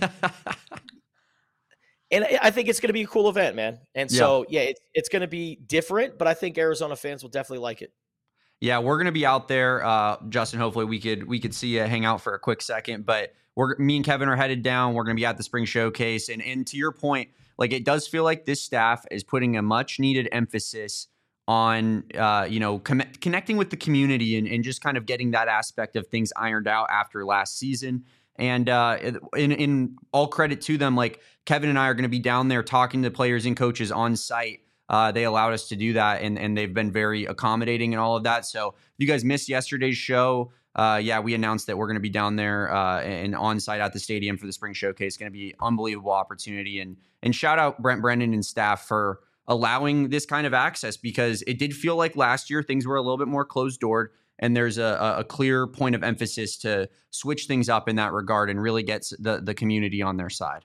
Speaker 4: and I think it's going to be a cool event, man. And so, yeah, yeah it's, it's going to be different, but I think Arizona fans will definitely like it.
Speaker 2: Yeah, we're gonna be out there, uh, Justin. Hopefully, we could we could see you hang out for a quick second. But we're me and Kevin are headed down. We're gonna be at the spring showcase, and and to your point, like it does feel like this staff is putting a much needed emphasis on uh, you know com- connecting with the community and and just kind of getting that aspect of things ironed out after last season. And uh, in in all credit to them, like Kevin and I are gonna be down there talking to players and coaches on site. Uh, they allowed us to do that, and, and they've been very accommodating and all of that. So if you guys missed yesterday's show, uh, yeah, we announced that we're going to be down there uh, and on site at the stadium for the spring showcase. Going to be unbelievable opportunity. And and shout out Brent Brennan and staff for allowing this kind of access, because it did feel like last year things were a little bit more closed doored, and there's a, a clear point of emphasis to switch things up in that regard and really get the, the community on their side.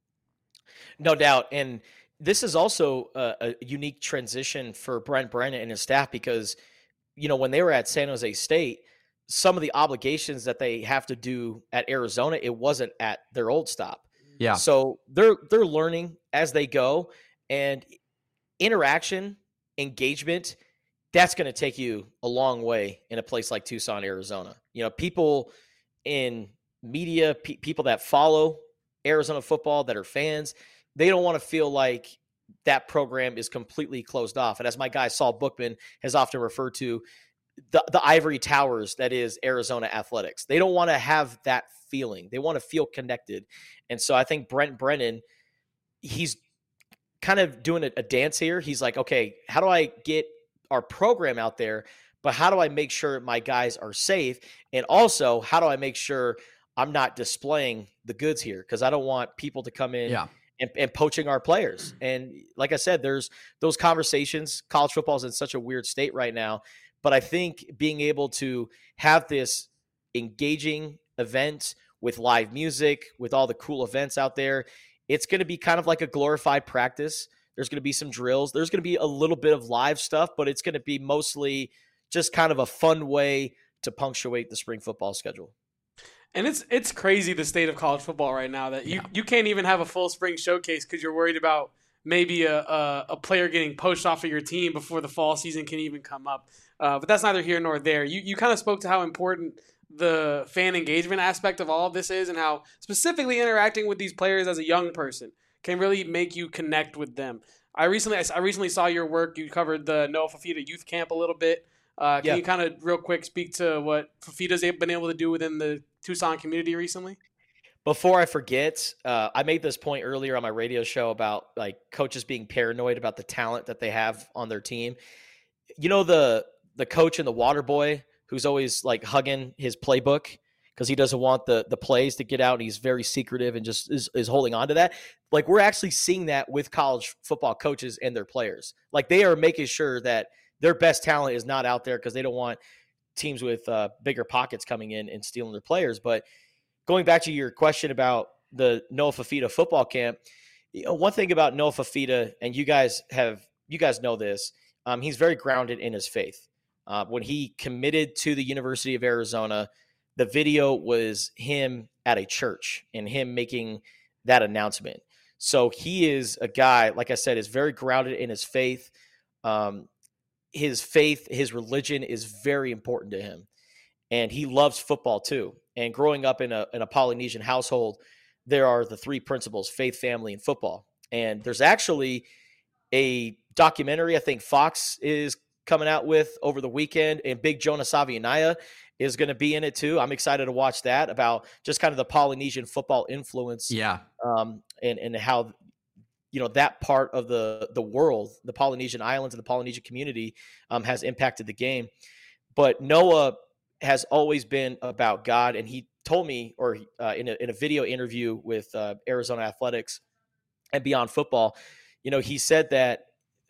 Speaker 4: No doubt. And this is also a, a unique transition for Brent Brennan and his staff, because, you know, when they were at San Jose State, some of the obligations that they have to do at Arizona, it wasn't at their old stop.
Speaker 2: Yeah.
Speaker 4: So they're they're learning as they go, and interaction, engagement, that's going to take you a long way in a place like Tucson, Arizona. You know, people in media, pe- people that follow Arizona football, that are fans, they don't want to feel like that program is completely closed off. And as my guy Saul Bookman has often referred to, the, the ivory towers that is Arizona athletics. They don't want to have that feeling. They want to feel connected. And so I think Brent Brennan, he's kind of doing a, a dance here. He's like, okay, how do I get our program out there? But how do I make sure my guys are safe? And also, how do I make sure I'm not displaying the goods here? Because I don't want people to come in
Speaker 2: yeah.
Speaker 4: And, and poaching our players. And like I said, there's those conversations. College football is in such a weird state right now. But I think being able to have this engaging event with live music, with all the cool events out there, it's going to be kind of like a glorified practice. There's going to be some drills. There's going to be a little bit of live stuff, but it's going to be mostly just kind of a fun way to punctuate the spring football schedule.
Speaker 1: And it's it's crazy, the state of college football right now, that you,
Speaker 2: Yeah.
Speaker 1: you can't even have a full spring showcase because you're worried about maybe a, a, a player getting poached off of your team before the fall season can even come up. Uh, but that's neither here nor there. You you kind of spoke to how important the fan engagement aspect of all of this is, and how specifically interacting with these players as a young person can really make you connect with them. I recently I recently saw your work. You covered the Noah Fifita Youth Camp a little bit. Uh, can
Speaker 4: Yeah.
Speaker 1: you kind of real quick speak to what Fifita's been able to do within the Tucson community recently?
Speaker 4: Before I forget, uh, I made this point earlier on my radio show about like coaches being paranoid about the talent that they have on their team. You know, the the coach and the water boy who's always like hugging his playbook because he doesn't want the the plays to get out. And he's very secretive and just is, is holding on to that. Like, we're actually seeing that with college football coaches and their players. Like, they are making sure that their best talent is not out there because they don't want teams with uh, bigger pockets coming in and stealing their players. But going back to your question about the Noah Fifita football camp, you know, one thing about Noah Fifita, and you guys have, you guys know this, um, he's very grounded in his faith. Uh, when he committed to the University of Arizona, the video was him at a church and him making that announcement. So he is a guy, like I said, is very grounded in his faith. Um, his faith, his religion is very important to him. And he loves football too. And growing up in a, in a Polynesian household, there are the three principles: faith, family, and football. And there's actually a documentary I think Fox is coming out with over the weekend, and Big Jonah Savianaya is going to be in it too. I'm excited to watch that, about just kind of the Polynesian football influence.
Speaker 2: Yeah.
Speaker 4: Um, and, and how, you know, that part of the, the world, the Polynesian islands and the Polynesian community um, has impacted the game. But Noah has always been about God. And he told me, or uh, in a, in a video interview with uh, Arizona Athletics and Beyond Football, you know, he said that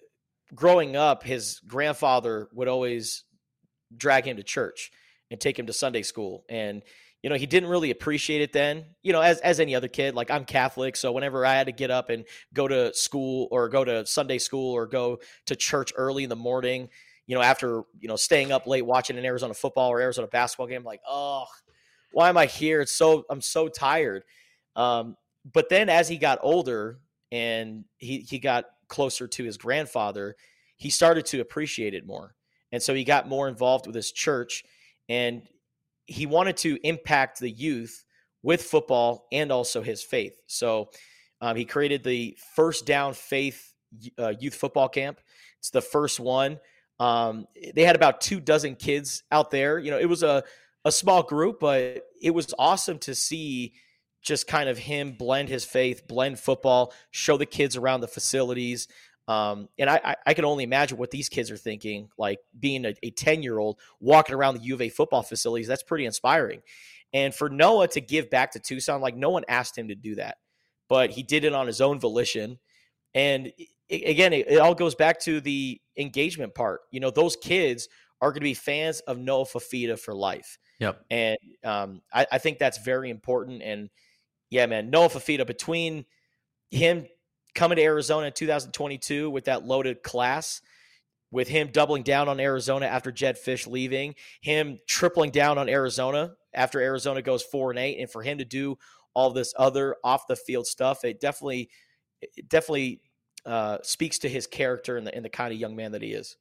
Speaker 4: growing up, his grandfather would always drag him to church and take him to Sunday school. And, you know, he didn't really appreciate it then, you know, as, as any other kid. Like, I'm Catholic, so whenever I had to get up and go to school or go to Sunday school or go to church early in the morning, you know, after, you know, staying up late watching an Arizona football or Arizona basketball game, like, oh, why am I here? It's so, I'm so tired. Um, but then as he got older and he, he got closer to his grandfather, he started to appreciate it more. And so he got more involved with his church, and he wanted to impact the youth with football and also his faith. So um, he created the First Down Faith uh, Youth Football Camp. It's the first one. Um, they had about two dozen kids out there. You know, it was a, a small group, but it was awesome to see just kind of him blend his faith, blend football, show the kids around the facilities. Um, and I, I, I can only imagine what these kids are thinking, like being a, a ten-year-old walking around the U of A football facilities. That's pretty inspiring. And for Noah to give back to Tucson, like, no one asked him to do that, but he did it on his own volition. And it, again, it, it all goes back to the engagement part. You know, those kids are going to be fans of Noah Fifita for life.
Speaker 2: Yep.
Speaker 4: And um, I, I think that's very important. And yeah, man, Noah Fifita, between him coming to Arizona in two thousand twenty-two with that loaded class, with him doubling down on Arizona after Jedd Fisch leaving, him tripling down on Arizona after Arizona goes four and eight, and for him to do all this other off the field stuff, it definitely, it definitely uh, speaks to his character and the, and the kind of young man that he is.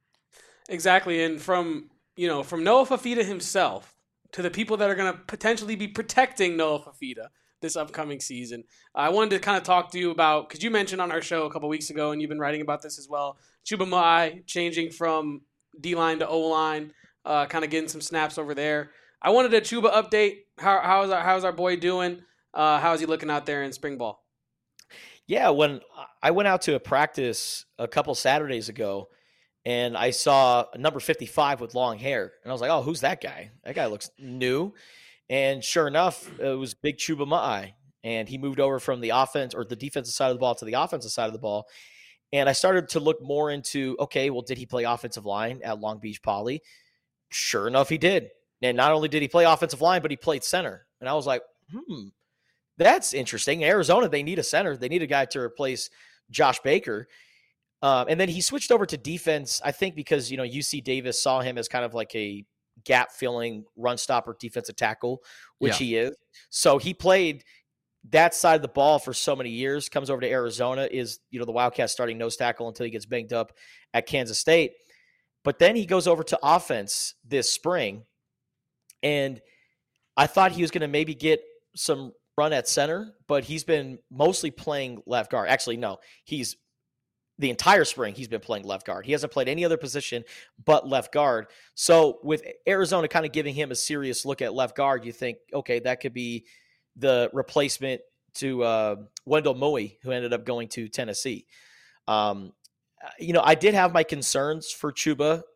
Speaker 1: Exactly. And from, you know, from Noah Fifita himself to the people that are going to potentially be protecting Noah Fifita this upcoming season, I wanted to kind of talk to you about, because you mentioned on our show a couple weeks ago, and you've been writing about this as well, Chuba Ma'ai changing from D-line to O-line, uh, kind of getting some snaps over there. I wanted a Chuba update. How, how's our, how's our boy doing? Uh, how is he looking out there in spring ball?
Speaker 4: Yeah, when I went out to a practice a couple Saturdays ago, and I saw a number fifty-five with long hair, and I was like, oh, who's that guy? That guy looks new. And sure enough, it was Big Chuba Ma'ai, and he moved over from the offense or the defensive side of the ball to the offensive side of the ball. And I started to look more into, okay, well, did he play offensive line at Long Beach Poly? Sure enough, he did. And not only did he play offensive line, but he played center. And I was like, hmm, that's interesting. In Arizona, they need a center. They need a guy to replace Josh Baker. Um, and then he switched over to defense, I think because, you know, U C Davis saw him as kind of like a gap filling run stopper defensive tackle, which yeah. he is. So he played that side of the ball for so many years, comes over to Arizona, is, you know, the Wildcats starting nose tackle until he gets banged up at Kansas State. But then he goes over to offense this spring. And I thought he was going to maybe get some run at center, but he's been mostly playing left guard. Actually, no, he's the entire spring he's been playing left guard. He hasn't played any other position but left guard. So with Arizona kind of giving him a serious look at left guard, you think, okay, that could be the replacement to uh, Wendell Moe, who ended up going to Tennessee. Um, you know, I did have my concerns for Chuba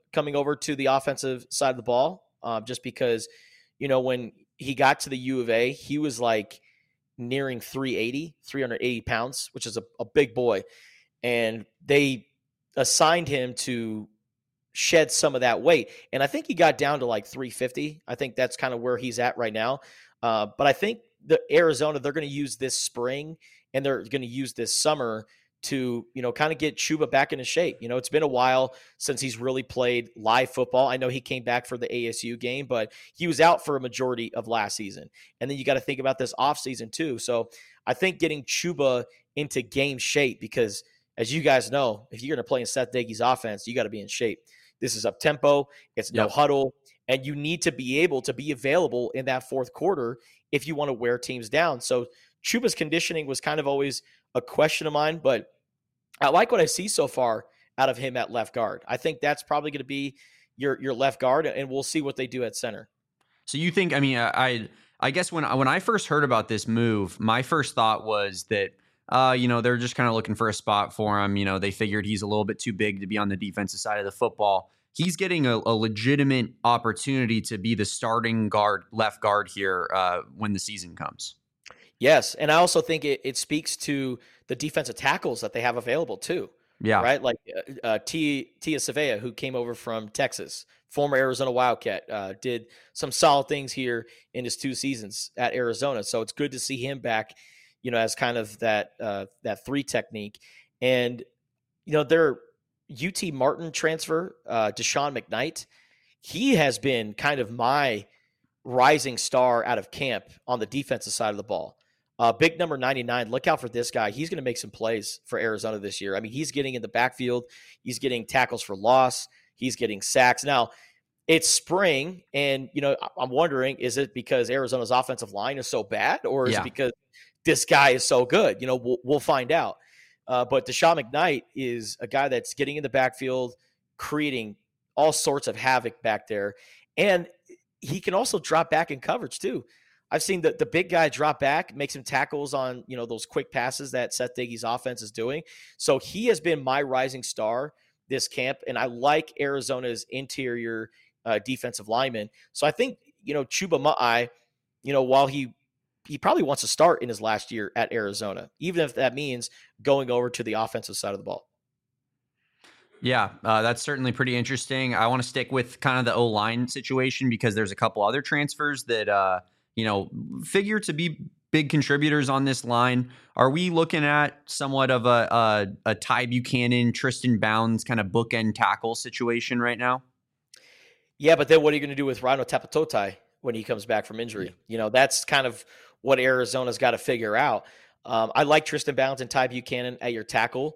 Speaker 4: coming over to the offensive side of the ball, uh, just because, you know, when he got to the U of A, he was like nearing three eighty, three eighty pounds, which is a, a big boy. And they assigned him to shed some of that weight. And I think he got down to like three fifty. I think that's kind of where he's at right now. Uh, but I think the Arizona, they're going to use this spring and they're going to use this summer to, you know, kind of get Chuba back into shape. You know, it's been a while since he's really played live football. I know he came back for the A S U game, but he was out for a majority of last season. And then you got to think about this offseason too. So I think getting Chuba into game shape, because as you guys know, if you're going to play in Seth Doege's offense, you got to be in shape. This is up tempo. It's no
Speaker 2: Yep.
Speaker 4: huddle. And you need to be able to be available in that fourth quarter if you want to wear teams down. So Chuba's conditioning was kind of always a question of mine, but I like what I see so far out of him at left guard. I think that's probably going to be your your left guard, and we'll see what they do at center.
Speaker 2: So you think, I mean, I I guess when I, when I first heard about this move, my first thought was that, uh, you know, they're just kind of looking for a spot for him. You know, they figured he's a little bit too big to be on the defensive side of the football. He's getting a, a legitimate opportunity to be the starting guard, left guard here uh, when the season comes.
Speaker 4: Yes, and I also think it, it speaks to the defensive tackles that they have available too.
Speaker 2: Yeah.
Speaker 4: Right? Like uh, uh, T, Tia Savea, who came over from Texas, former Arizona Wildcat, uh, did some solid things here in his two seasons at Arizona. So it's good to see him back, you know, as kind of that uh, that three technique. And, you know, their U T Martin transfer, uh, Deshaun McKnight, he has been kind of my rising star out of camp on the defensive side of the ball. Uh, big number ninety-nine. Look out for this guy. He's going to make some plays for Arizona this year. I mean, he's getting in the backfield. He's getting tackles for loss. He's getting sacks. Now, it's spring, and, you know, I'm wondering, is it because Arizona's offensive line is so bad, or is
Speaker 2: Yeah.
Speaker 4: it because this guy is so good? You know, we'll, we'll find out. Uh, but Deshaun McKnight is a guy that's getting in the backfield, creating all sorts of havoc back there. And he can also drop back in coverage too. I've seen the, the big guy drop back, make some tackles on, you know, those quick passes that Seth Doege's offense is doing. So he has been my rising star this camp, and I like Arizona's interior uh, defensive lineman. So I think, you know, Chuba Ma'ai, you know, while he he probably wants to start in his last year at Arizona, even if that means going over to the offensive side of the ball.
Speaker 2: Yeah, uh, that's certainly pretty interesting. I want to stick with kind of the O-line situation because there's a couple other transfers that, uh, you know, figure to be big contributors on this line. Are we looking at somewhat of a, a, a Ty Buchanan, Tristan Bounds kind of bookend tackle situation right now?
Speaker 4: Yeah, but then what are you going to do with Rhino Tapatotai when he comes back from injury? You know, that's kind of what Arizona's got to figure out. Um, I like Tristan Bounds and Ty Buchanan at your tackle.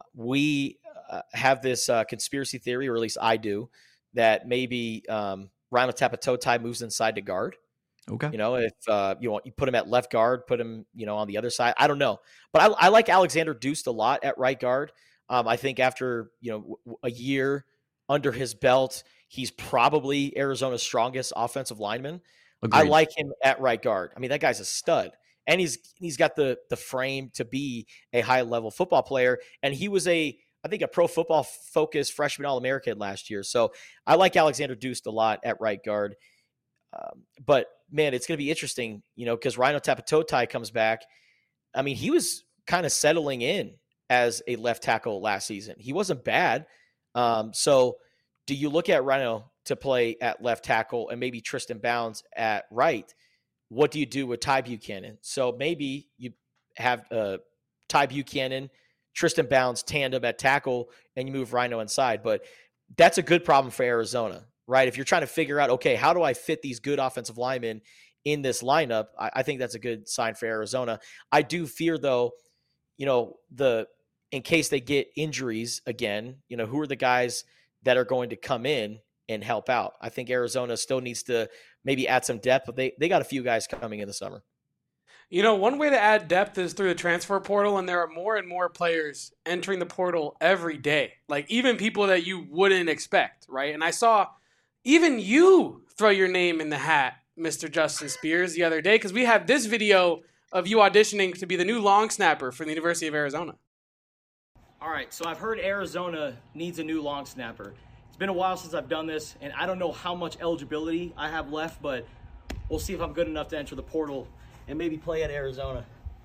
Speaker 4: We uh, have this uh, conspiracy theory, or at least I do, that maybe um, Rhino Tapatotai moves inside to guard.
Speaker 2: Okay.
Speaker 4: You know, if uh, you want, you put him at left guard, put him, you know, on the other side. I don't know, but I, I like Alexander Deuce a lot at right guard. Um, I think after, you know, w- a year under his belt, he's probably Arizona's strongest offensive lineman.
Speaker 2: Agreed.
Speaker 4: I like him at right guard. I mean, that guy's a stud, and he's he's got the the frame to be a high level football player. And he was a, I think, a Pro Football Focus freshman All-American last year. So I like Alexander Deuce a lot at right guard. Um, but man, it's going to be interesting, you know, because Rhino Tapatotai comes back. I mean, he was kind of settling in as a left tackle last season. He wasn't bad. Um, so do you look at Rhino to play at left tackle and maybe Tristan Bounds at right? What do you do with Ty Buchanan? So maybe you have uh, Ty Buchanan, Tristan Bounds tandem at tackle, and you move Rhino inside. But that's a good problem for Arizona, right? If you're trying to figure out, okay, how do I fit these good offensive linemen in this lineup? I, I think that's a good sign for Arizona. I do fear, though, you know, the in case they get injuries again, you know, who are the guys that are going to come in and help out? I think Arizona still needs to maybe add some depth, but they, they got a few guys coming in the summer.
Speaker 1: You know, one way to add depth is through the transfer portal, and there are more and more players entering the portal every day. Like, even people that you wouldn't expect, right? And I saw even you throw your name in the hat, Mister Justin Spears, the other day, because we have this video of you auditioning to be the new long snapper for the University of Arizona.
Speaker 5: All right, so I've heard Arizona needs a new long snapper. It's been a while since I've done this, and I don't know how much eligibility I have left, but we'll see if I'm good enough to enter the portal and maybe play at Arizona.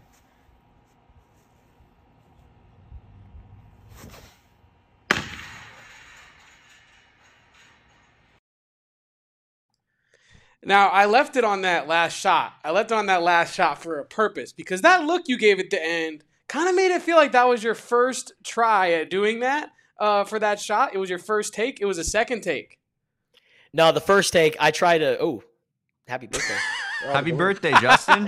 Speaker 1: Now, I left it on that last shot. I left it on that last shot for a purpose, because that look you gave at the end kind of made it feel like that was your first try at doing that uh, for that shot. It was your first take. It was a second take.
Speaker 4: No, the first take, I tried to, oh, happy birthday.
Speaker 2: Happy birthday, Justin.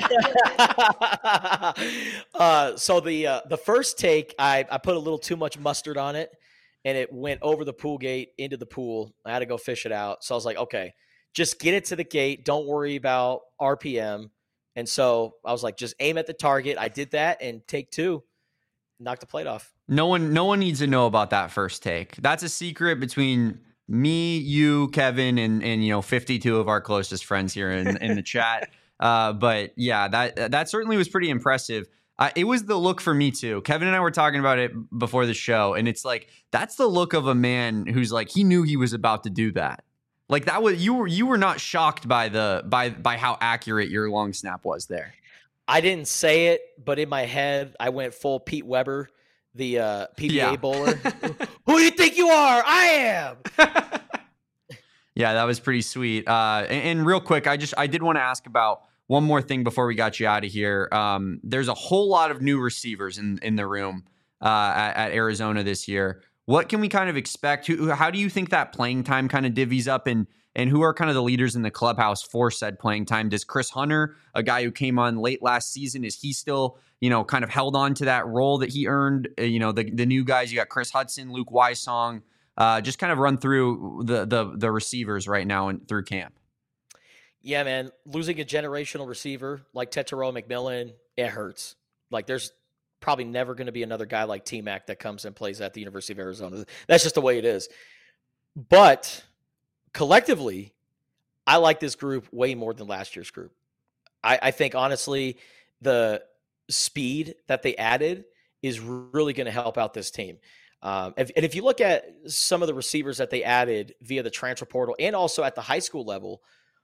Speaker 4: uh, so the uh, the first take, I, I put a little too much mustard on it, and it went over the pool gate into the pool. I had to go fish it out. So I was like, okay, just get it to the gate. Don't worry about R P M. And so I was like, just aim at the target. I did that, and take two, knocked the plate off.
Speaker 2: No one, no one needs to know about that first take. That's a secret between me, you, Kevin, and and you know, fifty-two of our closest friends here in, in the chat. Uh, but yeah, that that certainly was pretty impressive. Uh, it was the look for me too. Kevin and I were talking about it before the show, and it's like that's the look of a man who's like he knew he was about to do that. Like that was you were you were not shocked by the by by how accurate your long snap was there.
Speaker 4: I didn't say it, but in my head, I went full Pete Weber, the uh, P B A
Speaker 2: Yeah.
Speaker 4: bowler. Who do you think you are? I am.
Speaker 2: Yeah, that was pretty sweet. Uh, and, and real quick, I just I did want to ask about one more thing before we got you out of here. Um, there's a whole lot of new receivers in in the room uh, at, at Arizona this year. What can we kind of expect? Who, how do you think that playing time kind of divvies up, and and who are kind of the leaders in the clubhouse for said playing time? Does Chris Hunter, a guy who came on late last season, is he still, you know, kind of held on to that role that he earned? Uh, you know, the the new guys, you got Chris Hudson, Luke Wysong. Uh, just kind of run through the the the receivers right now and through camp.
Speaker 4: Yeah, man, losing a generational receiver like Tetairoa McMillan, it hurts. Like there's probably never going to be another guy like T-Mac that comes and plays at the University of Arizona. That's just the way it is. But collectively, I like this group way more than last year's group. I, I think, honestly, the speed that they added is really going to help out this team. Um, if, and if you look at some of the receivers that they added via the transfer portal and also at the high school level,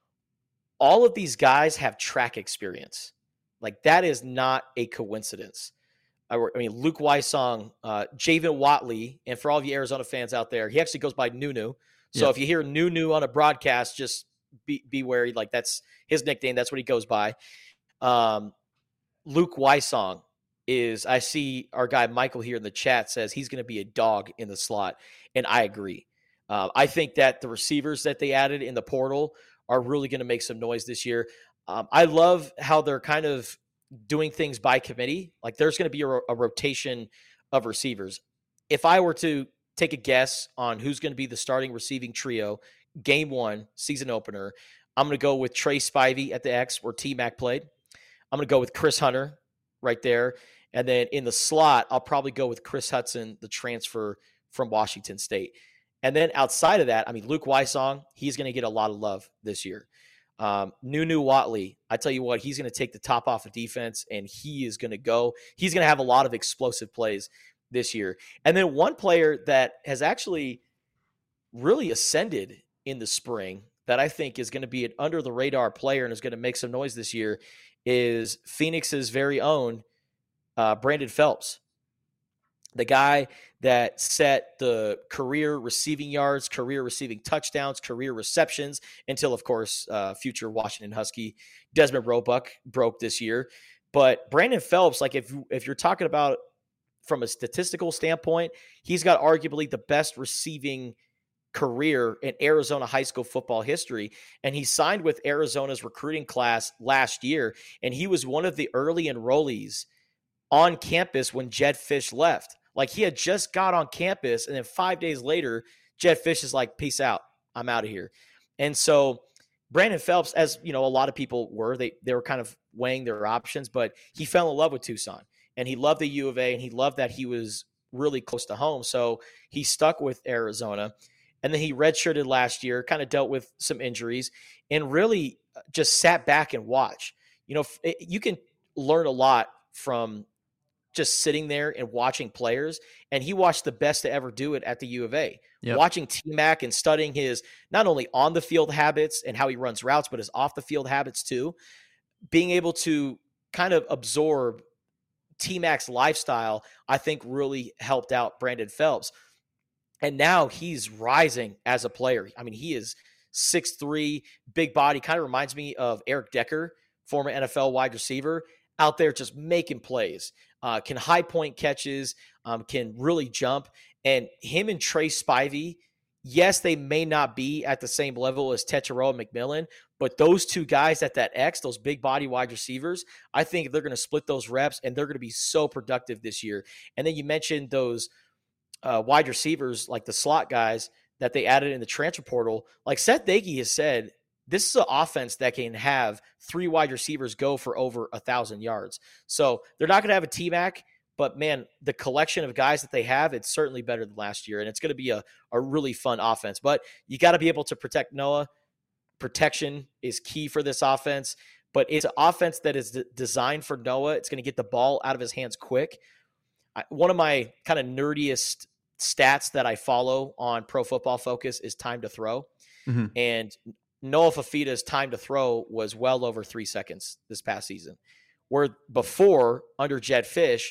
Speaker 4: all of these guys have track experience. Like that is not a coincidence. I, I mean, Luke Wysong, uh, Javen Watley, and for all of you Arizona fans out there, he actually goes by Nunu. So
Speaker 2: Yeah.
Speaker 4: if you hear Nunu on a broadcast, just be, be wary. Like that's his nickname. That's what he goes by. Um, Luke Wysong is, I see our guy Michael here in the chat says he's going to be a dog in the slot. And I agree. Uh, I think that the receivers that they added in the portal are really going to make some noise this year. Um, I love how they're kind of doing things by committee. Like there's going to be a, a rotation of receivers. If I were to take a guess on who's going to be the starting receiving trio, game one, season opener, I'm going to go with Trey Spivey at the X where T-Mac played. I'm going to go with Chris Hunter right there. And then in the slot, I'll probably go with Chris Hudson, the transfer from Washington State. And then outside of that, I mean, Luke Wysong, he's going to get a lot of love this year. Um, Nunu Watley, I tell you what, he's going to take the top off of defense, and he is going to go. He's going to have a lot of explosive plays this year. And then one player that has actually really ascended in the spring that I think is going to be an under-the-radar player and is going to make some noise this year is Phoenix's very own uh, Brandon Phelps. The guy that set the career receiving yards, career receiving touchdowns, career receptions until, of course, uh, future Washington Husky Desmond Roebuck broke this year. But Brandon Phelps, like if if you're talking about from a statistical standpoint, he's got arguably the best receiving career in Arizona high school football history. And he signed with Arizona's recruiting class last year. And he was one of the early enrollees on campus when Jedd Fisch left. Like he had just got on campus, and then five days later, Jedd Fisch is like, peace out. I'm out of here. And so Brandon Phelps, as you know, a lot of people were, they, they were kind of weighing their options, but he fell in love with Tucson, and he loved the U of A, and he loved that he was really close to home. So he stuck with Arizona, and then he redshirted last year, kind of dealt with some injuries, and really just sat back and watched. You know, you can learn a lot from just sitting there and watching players, and he watched the best to ever do it at the U of A. Yep. Watching T-Mac and studying his not only on the field habits and how he runs routes, but his off the field habits too. Being able to kind of absorb T-Mac's lifestyle, I think really helped out Brandon Phelps. And now he's rising as a player. I mean, he is six three, big body, kind of reminds me of Eric Decker, former N F L wide receiver, out there just making plays. Uh, can high point catches, um, can really jump. And him and Trey Spivey, yes, they may not be at the same level as Tetairoa and McMillan, but those two guys at that X, those big body wide receivers, I think they're going to split those reps, and they're going to be so productive this year. And then you mentioned those uh, wide receivers, like the slot guys that they added in the transfer portal. Like Seth Dagey has said, this is an offense that can have three wide receivers go for over a thousand yards. So they're not going to have a T-Mac, but man, the collection of guys that they have, it's certainly better than last year. And it's going to be a, a really fun offense, but you got to be able to protect Noah. Protection is key for this offense, but it's an offense that is d- designed for Noah. It's going to get the ball out of his hands quick. I, one of my kind of nerdiest stats that I follow on Pro Football Focus is time to throw. Mm-hmm. And Noah Fafita's time to throw was well over three seconds this past season, where before, under Jedd Fisch,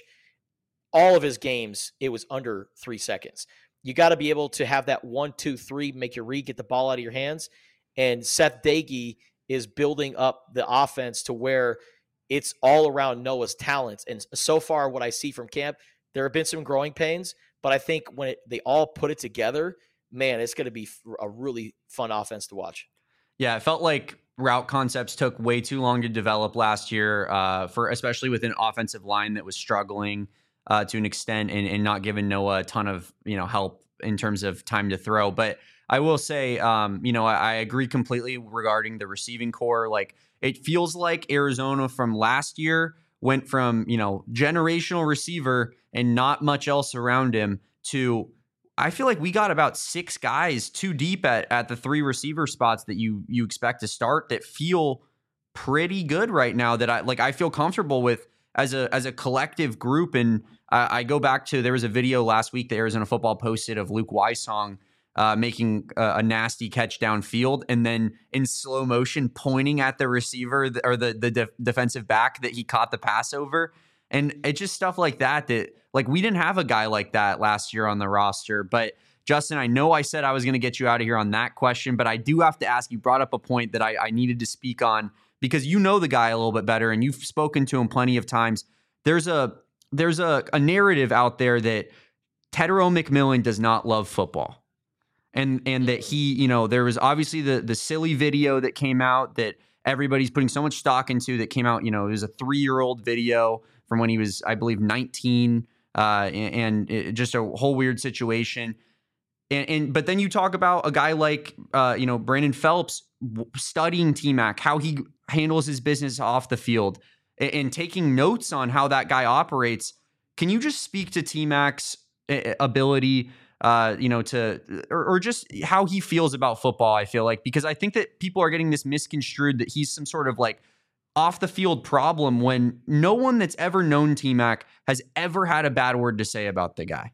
Speaker 4: all of his games, it was under three seconds. You got to be able to have that one, two, three, make your read, get the ball out of your hands. And Seth Dagey is building up the offense to where it's all around Noah's talents. And so far, what I see from camp, there have been some growing pains, but I think when it, they all put it together, man, it's going to be a really fun offense to watch.
Speaker 2: Yeah, it felt like route concepts took way too long to develop last year, uh, for especially with an offensive line that was struggling uh, to an extent and, and not giving Noah a ton of, you know, help in terms of time to throw. But I will say, um, you know, I, I agree completely regarding the receiving core. Like, it feels like Arizona from last year went from, you know, generational receiver and not much else around him to, I feel like we got about six guys too deep at, at the three receiver spots that you you expect to start that feel pretty good right now, that I like I feel comfortable with as a as a collective group. And I, I go back to, there was a video last week that Arizona Football posted of Luke Wysong uh, making a, a nasty catch downfield and then in slow motion pointing at the receiver or the the def- defensive back that he caught the pass over. And it's just stuff like that that, like, we didn't have a guy like that last year on the roster. But Justin, I know I said I was going to get you out of here on that question, but I do have to ask, you brought up a point that I, I needed to speak on because you know the guy a little bit better and you've spoken to him plenty of times. There's a there's a, a narrative out there that Tetairoa McMillan does not love football. And and that he, you know, there was obviously the the silly video that came out that everybody's putting so much stock into that came out, you know, it was a three-year-old video from when he was, I believe, nineteen, uh, and, and it, just a whole weird situation. And, and but then you talk about a guy like, uh, you know, Brandon Phelps studying T-Mac, how he handles his business off the field, and, and taking notes on how that guy operates. Can you just speak to T-Mac's ability, uh, you know, to or, or just how he feels about football? I feel like, because I think that people are getting this misconstrued that he's some sort of like off the field problem when no one that's ever known T-Mac has ever had a bad word to say about the guy.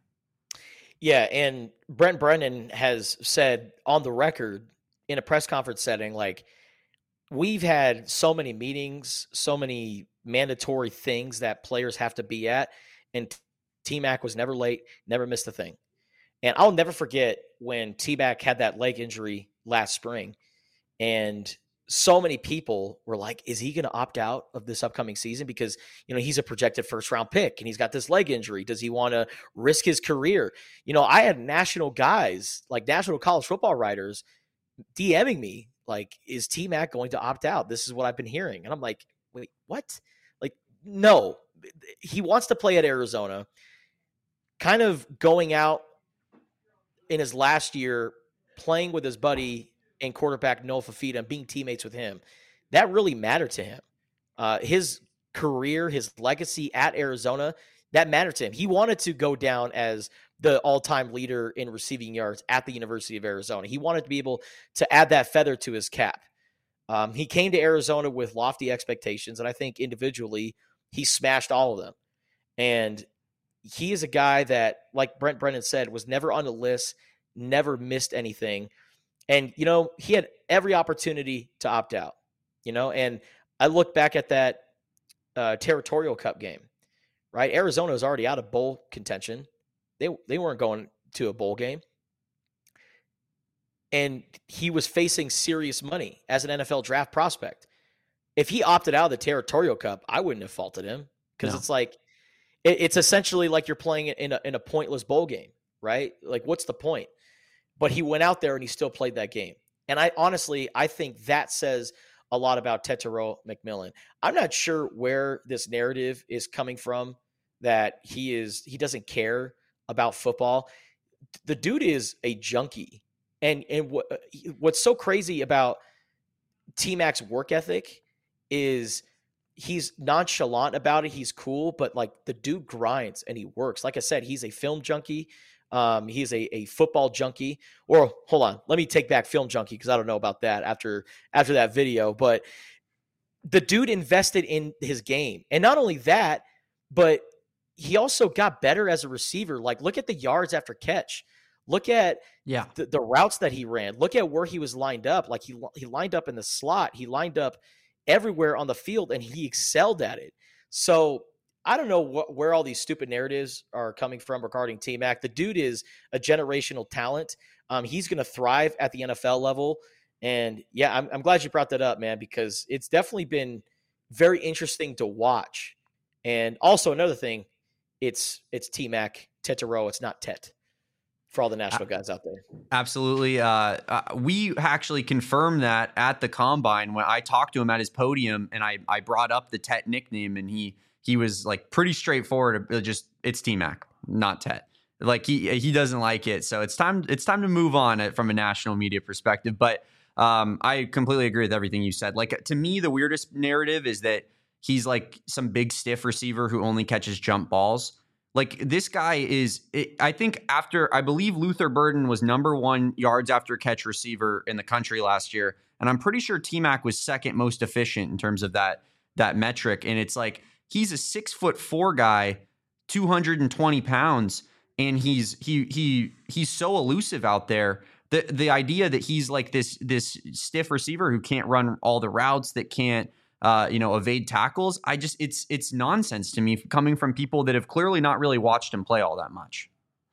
Speaker 4: Yeah. And Brent Brennan has said on the record in a press conference setting, like, we've had so many meetings, so many mandatory things that players have to be at. And T-Mac was never late, never missed a thing. And I'll never forget when T-Mac had that leg injury last spring, and so many people were like, is he going to opt out of this upcoming season? Because, you know, he's a projected first round pick and he's got this leg injury. Does he want to risk his career? You know, I had national guys, like national college football writers, DMing me, like, is T-Mac going to opt out? This is what I've been hearing. And I'm like, wait, what? Like, no, he wants to play at Arizona, kind of going out in his last year, playing with his buddy and quarterback Noah Fafita and being teammates with him. That really mattered to him. Uh, his career, his legacy at Arizona, that mattered to him. He wanted to go down as the all-time leader in receiving yards at the University of Arizona. He wanted to be able to add that feather to his cap. Um, he came to Arizona with lofty expectations, and I think individually he smashed all of them. And he is a guy that, like Brent Brennan said, was never on the list, never missed anything. And, you know, he had every opportunity to opt out, you know, and I look back at that uh, Territorial Cup game, right? Arizona was already out of bowl contention. They, they weren't going to a bowl game. And he was facing serious money as an N F L draft prospect. If he opted out of the Territorial Cup, I wouldn't have faulted him, because no. it's like, it, it's essentially like you're playing in a, in a pointless bowl game, right? Like, what's the point? But he went out there and he still played that game. And I honestly, I think that says a lot about Tetairoa McMillan. I'm not sure where this narrative is coming from, that he is, he doesn't care about football. The dude is a junkie. And and what what's so crazy about T-Mac's work ethic is he's nonchalant about it. He's cool, but like the dude grinds and he works. Like I said, he's a film junkie. Um, he's a, a football junkie. Or hold on, let me take back film junkie, because I don't know about that after after that video. But the dude invested in his game. And not only that, but he also got better as a receiver. Like, look at the yards after catch. Look at
Speaker 2: yeah.
Speaker 4: the, the routes that he ran. Look at where he was lined up. Like he he lined up in the slot. He lined up everywhere on the field, and he excelled at it. So I don't know what, where all these stupid narratives are coming from regarding T-Mac. The dude is a generational talent. Um, he's going to thrive at the N F L level. And yeah, I'm, I'm glad you brought that up, man, because it's definitely been very interesting to watch. And also another thing, it's it's T-Mac, Tetairoa. It's not Tet. For all the national guys out there.
Speaker 2: Absolutely. Uh, uh, we actually confirmed that at the Combine when I talked to him at his podium, and I, I brought up the Tet nickname, and he he was like pretty straightforward. Just it's T-Mac, not Tet. Like he he doesn't like it. So it's time it's time to move on from a national media perspective. But um, I completely agree with everything you said. Like, to me, the weirdest narrative is that he's like some big stiff receiver who only catches jump balls. Like, this guy is, it, I think after, I believe Luther Burden was number one yards after catch receiver in the country last year. And I'm pretty sure T-Mac was second most efficient in terms of that, that metric. And it's like, he's a six foot four guy, two hundred twenty pounds. And he's, he, he, he's so elusive out there. The, the idea that he's like this, this stiff receiver who can't run all the routes, that can't, Uh, you know, evade tackles. I just, it's, it's nonsense to me coming from people that have clearly not really watched him play all that much.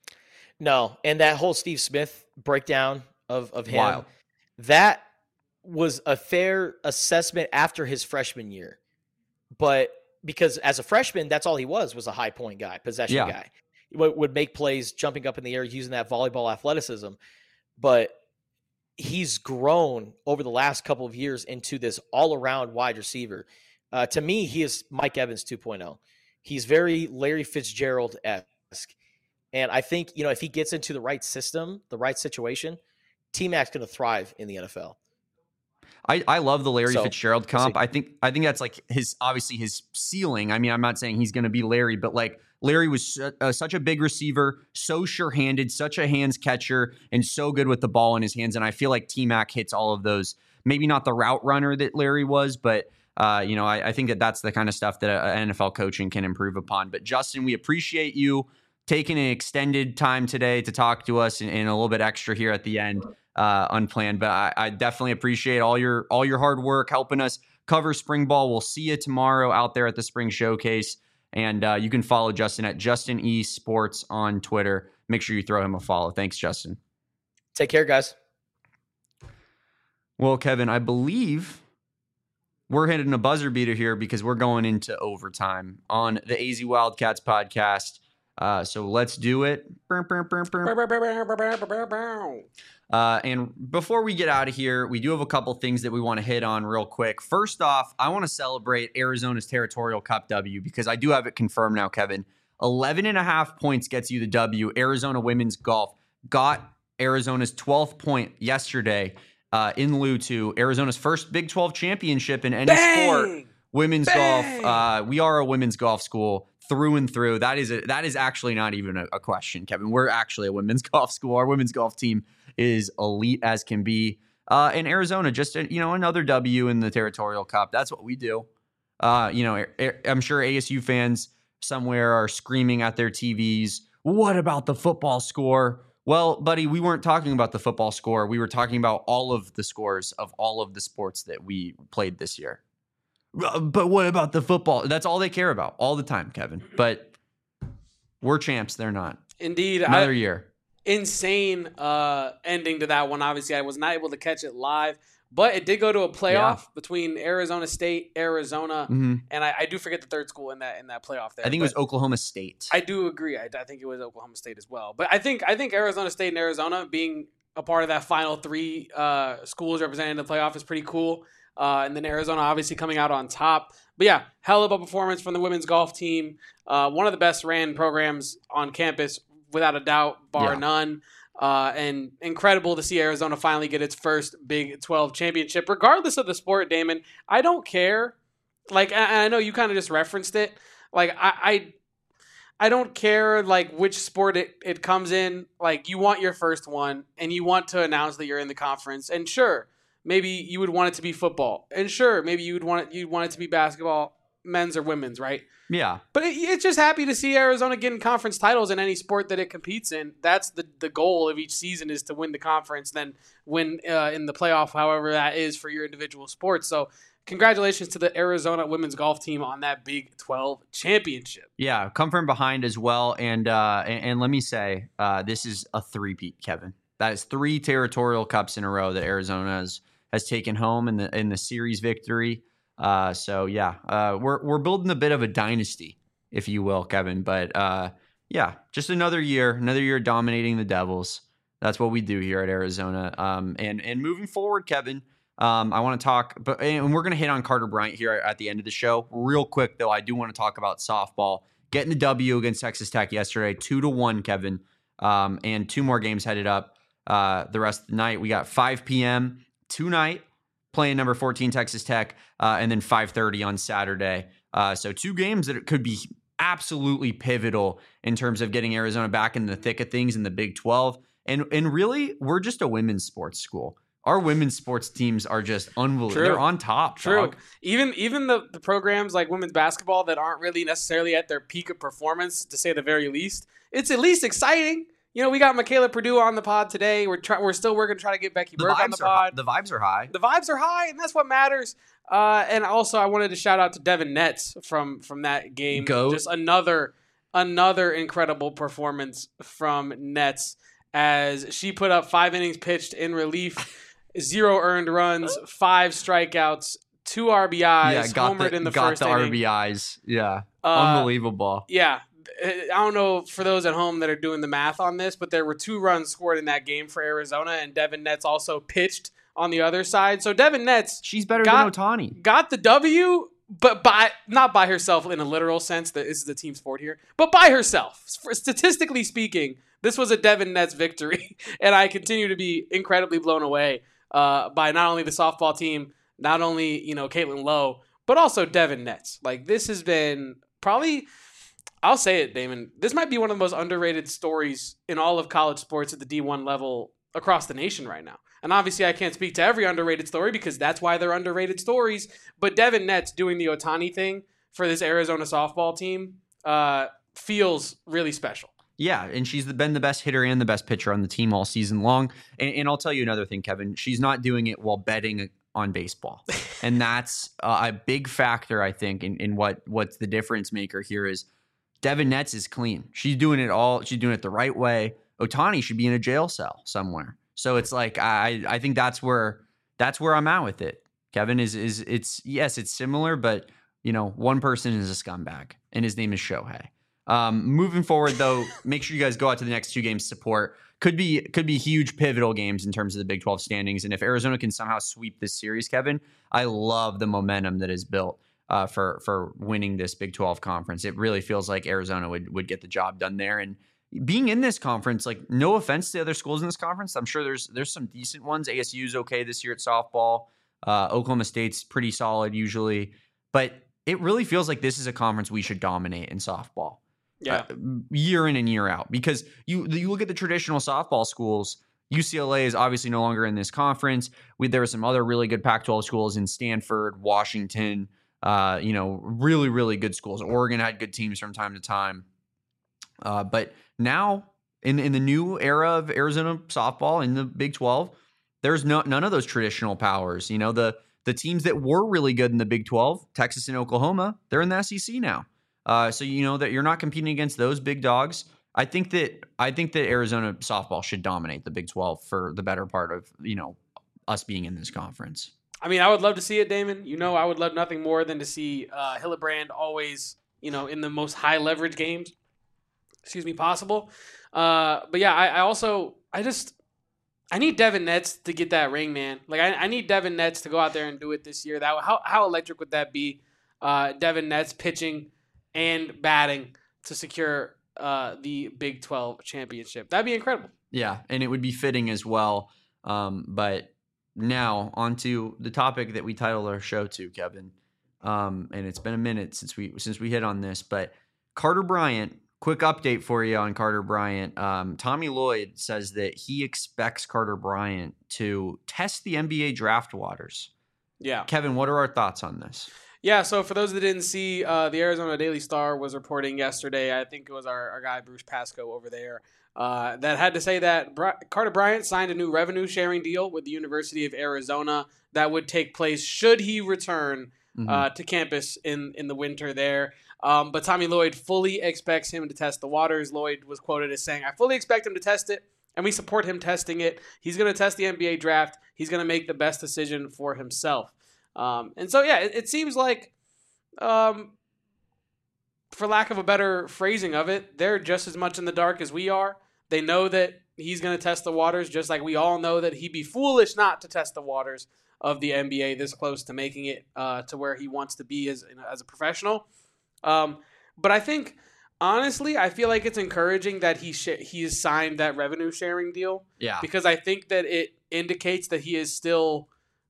Speaker 4: No. And that whole Steve Smith breakdown of, of him,
Speaker 2: Wild.
Speaker 4: That was a fair assessment after his freshman year. But because as a freshman, that's all he was, was a high point guy, possession
Speaker 2: yeah.
Speaker 4: guy. He would, would make plays jumping up in the air using that volleyball athleticism. But he's grown over the last couple of years into this all-around wide receiver. Uh, to me, he is Mike Evans two point oh. He's very Larry Fitzgerald-esque. And I think, you know, if he gets into the right system, the right situation, T-Mac's going to thrive in the N F L.
Speaker 2: I, I love the Larry so, Fitzgerald comp.
Speaker 4: we'll
Speaker 2: I think I think that's like his, obviously his ceiling. I mean, I'm not saying he's going to be Larry, but like Larry was su- uh, such a big receiver, so sure-handed, such a hands catcher, and so good with the ball in his hands. And I feel like T-Mac hits all of those. Maybe not the route runner that Larry was, but uh, you know, I, I think that that's the kind of stuff that uh, N F L coaching can improve upon. But Justin, we appreciate you taking an extended time today to talk to us, and, and a little bit extra here at the end, uh, unplanned. But I, I definitely appreciate all your all your hard work helping us cover spring ball. We'll see you tomorrow out there at the Spring Showcase. And uh, you can follow Justin at Justin E Sports on Twitter. Make sure you throw him a follow. Thanks, Justin.
Speaker 4: Take care, guys.
Speaker 2: Well, Kevin, I believe we're hitting a buzzer beater here because we're going into overtime on the A Z Wildcats podcast. Uh, so let's do it. Uh, and before we get out of here, we do have a couple things that we want to hit on real quick. First off, I want to celebrate Arizona's Territorial Cup W because I do have it confirmed now, Kevin. eleven and a half points gets you the W. Arizona women's golf got Arizona's twelfth point yesterday uh, in lieu to Arizona's first Big twelve championship in any
Speaker 1: Bang!
Speaker 2: sport. Women's
Speaker 1: Bang!
Speaker 2: golf. Uh, we are a women's golf school through and through. That is a, that is actually not even a, a question, Kevin. We're actually a women's golf school. Our women's golf team is elite as can be. Uh, in Arizona, just, you know, another W in the Territorial Cup. That's what we do. Uh, you know, I'm sure A S U fans somewhere are screaming at their T Vs, what about the football score? Well, buddy, we weren't talking about the football score. We were talking about all of the scores of all of the sports that we played this year. But what about the football? That's all they care about all the time, Kevin. But we're champs. They're not.
Speaker 1: Indeed.
Speaker 2: Another
Speaker 1: I,
Speaker 2: year.
Speaker 1: Insane uh, ending to that one. Obviously, I was not able to catch it live. But it did go to a playoff yeah. between Arizona State, Arizona,
Speaker 2: mm-hmm.
Speaker 1: and I, I do forget the third school in that in that playoff there.
Speaker 2: I think it was Oklahoma State.
Speaker 1: I do agree. I, I think it was Oklahoma State as well. But I think I think Arizona State and Arizona being a part of that final three uh, schools representing the playoff is pretty cool. Uh, and then Arizona obviously coming out on top. But yeah, hell of a performance from the women's golf team. Uh, one of the best ran programs on campus, without a doubt, bar
Speaker 2: yeah.
Speaker 1: none. Uh, and incredible to see Arizona finally get its first Big twelve championship, regardless of the sport, Damon. I don't care. Like, I, I know you kind of just referenced it. Like, I, I, I don't care, like, which sport it, it comes in. Like, you want your first one, and you want to announce that you're in the conference. And sure, maybe you would want it to be football. And sure, maybe you would want it, you'd want it to be basketball, men's or women's, right?
Speaker 2: Yeah.
Speaker 1: But it, it's just happy to see Arizona getting conference titles in any sport that it competes in. That's the, the goal of each season, is to win the conference, then win uh, in the playoff, however that is for your individual sports. So congratulations to the Arizona women's golf team on that Big twelve championship.
Speaker 2: Yeah, come from behind as well. And uh, and, and let me say, uh, this is a three-peat, Kevin. That is three territorial cups in a row that Arizona has, has taken home in the in the series victory. Uh, so yeah, uh, we're, we're building a bit of a dynasty, if you will, Kevin, but, uh, yeah, just another year, another year dominating the Devils. That's what we do here at Arizona. Um, and, and moving forward, Kevin, um, I want to talk, but, and we're going to hit on Carter Bryant here at the end of the show real quick, though. I do want to talk about softball getting the W against Texas Tech yesterday, two to one, Kevin. Um, and two more games headed up, uh, the rest of the night. We got five p.m. tonight, playing number fourteen Texas Tech, uh, and then five thirty on Saturday. Uh, so two games that could be absolutely pivotal in terms of getting Arizona back in the thick of things in the Big twelve. And and really, we're just a women's sports school. Our women's sports teams are just unbelievable.
Speaker 1: True.
Speaker 2: They're on top.
Speaker 1: True.
Speaker 2: Dog.
Speaker 1: Even even the, the programs like women's basketball that aren't really necessarily at their peak of performance, to say the very least, it's at least exciting. You know, we got Michaela Purdue on the pod today. We're try- we're still working to try to get Becky
Speaker 2: The
Speaker 1: Burke on
Speaker 2: vibes
Speaker 1: the
Speaker 2: are hi-
Speaker 1: pod.
Speaker 2: the vibes are high.
Speaker 1: The vibes are high, and that's what matters. Uh, and also, I wanted to shout out to Devin Netz from from that game.
Speaker 2: Goat.
Speaker 1: Just another another incredible performance from Netz, as she put up five innings pitched in relief, zero earned runs, five strikeouts, two R B Is,
Speaker 2: Yeah, got
Speaker 1: homered
Speaker 2: the,
Speaker 1: in the
Speaker 2: got
Speaker 1: first
Speaker 2: the
Speaker 1: inning.
Speaker 2: R B Is. Yeah,
Speaker 1: Uh,
Speaker 2: unbelievable.
Speaker 1: Yeah. I don't know for those at home that are doing the math on this, but there were two runs scored in that game for Arizona, and Devin Netz also pitched on the other side. So Devin Netz,
Speaker 2: She's better
Speaker 1: got,
Speaker 2: than Ohtani.
Speaker 1: got the W, but by not by herself in a literal sense. That this is the team sport here, but by herself. Statistically speaking, this was a Devin Netz victory, and I continue to be incredibly blown away uh, by not only the softball team, not only you know Caitlin Lowe, but also Devin Netz. Like, this has been probably. I'll say it, Damon. This might be one of the most underrated stories in all of college sports at the D one level across the nation right now. And obviously I can't speak to every underrated story because that's why they're underrated stories. But Devin Netz doing the Ohtani thing for this Arizona softball team uh, feels really special.
Speaker 2: Yeah, and she's been the best hitter and the best pitcher on the team all season long. And, and I'll tell you another thing, Kevin. She's not doing it while betting on baseball. And that's uh, a big factor, I think, in, in what what's the difference maker here is Devin Netz is clean. She's doing it all. She's doing it the right way. Ohtani should be in a jail cell somewhere. So it's like I I think that's where that's where I'm at with it. Kevin is is it's yes, it's similar, but you know, one person is a scumbag, and his name is Shohei. Um, moving forward, though, make sure you guys go out to the next two games support. Could be could be huge pivotal games in terms of the Big twelve standings. And if Arizona can somehow sweep this series, Kevin, I love the momentum that is built uh, for for winning this Big twelve conference. It really feels like Arizona would would get the job done there. And being in this conference, like, no offense to the other schools in this conference, I'm sure there's there's some decent ones. A S U's okay this year at softball. Uh, Oklahoma State's pretty solid usually, but it really feels like this is a conference we should dominate in softball.
Speaker 1: Yeah,
Speaker 2: uh, year in and year out, because you you look at the traditional softball schools. U C L A is obviously no longer in this conference. We, there were some other really good Pac twelve schools in Stanford, Washington, Uh, you know, really, really good schools. Oregon had good teams from time to time. Uh, but now in, in the new era of Arizona softball in the Big twelve, there's no, none of those traditional powers. You know, the, the teams that were really good in the Big twelve, Texas and Oklahoma, they're in the S E C now. Uh, so, you know, that you're not competing against those big dogs. I think that, I think that Arizona softball should dominate the Big twelve for the better part of, you know, us being in this conference.
Speaker 1: I mean, I would love to see it, Damon. You know, I would love nothing more than to see uh, Hillebrand always, you know, in the most high leverage games, excuse me, possible. Uh, but yeah, I, I also, I just, I need Devin Netz to get that ring, man. Like, I, I need Devin Netz to go out there and do it this year. That how how electric would that be? Uh, Devin Netz pitching and batting to secure uh, the Big twelve championship. That'd be incredible.
Speaker 2: Yeah, and it would be fitting as well. Um, but now onto the topic that we titled our show to, Kevin. Um, and it's been a minute since we since we hit on this, but Carter Bryant. Quick update for you on Carter Bryant. Um, Tommy Lloyd says that he expects Carter Bryant to test the N B A draft waters.
Speaker 1: Yeah.
Speaker 2: Kevin, what are our thoughts on this?
Speaker 1: Yeah, so for those that didn't see, uh, the Arizona Daily Star was reporting yesterday, I think it was our, our guy Bruce Pascoe over there, uh, that had to say that Bri- Carter Bryant signed a new revenue sharing deal with the University of Arizona that would take place should he return mm-hmm. uh, to campus in, in the winter there. Um, but Tommy Lloyd fully expects him to test the waters. Lloyd was quoted as saying, I fully expect him to test it, and we support him testing it. He's going to test the N B A draft. He's going to make the best decision for himself. Um, and so, yeah, it, it seems like, um, for lack of a better phrasing of it, they're just as much in the dark as we are. They know that he's going to test the waters, just like we all know that he'd be foolish not to test the waters of the N B A this close to making it uh, to where he wants to be as, as a professional. Um, but I think, honestly, I feel like it's encouraging that he sh- he has signed that revenue sharing deal.
Speaker 2: Yeah.
Speaker 1: Because I think that it indicates that he is still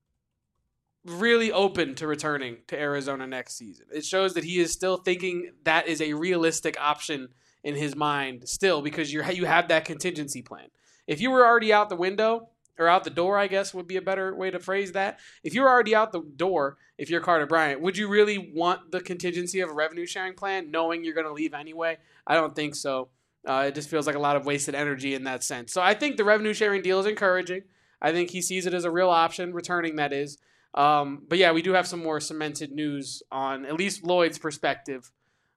Speaker 1: really open to returning to Arizona next season. It shows that he is still thinking that is a realistic option in his mind still, because you you have that contingency plan. If you were already out the window, or out the door, I guess would be a better way to phrase that. If you're already out the door, if you're Carter Bryant, would you really want the contingency of a revenue sharing plan knowing you're going to leave anyway? I don't think so. Uh, it just feels like a lot of wasted energy in that sense. So I think the revenue sharing deal is encouraging. I think he sees it as a real option, returning that is. Um, but yeah, we do have some more cemented news on at least Lloyd's perspective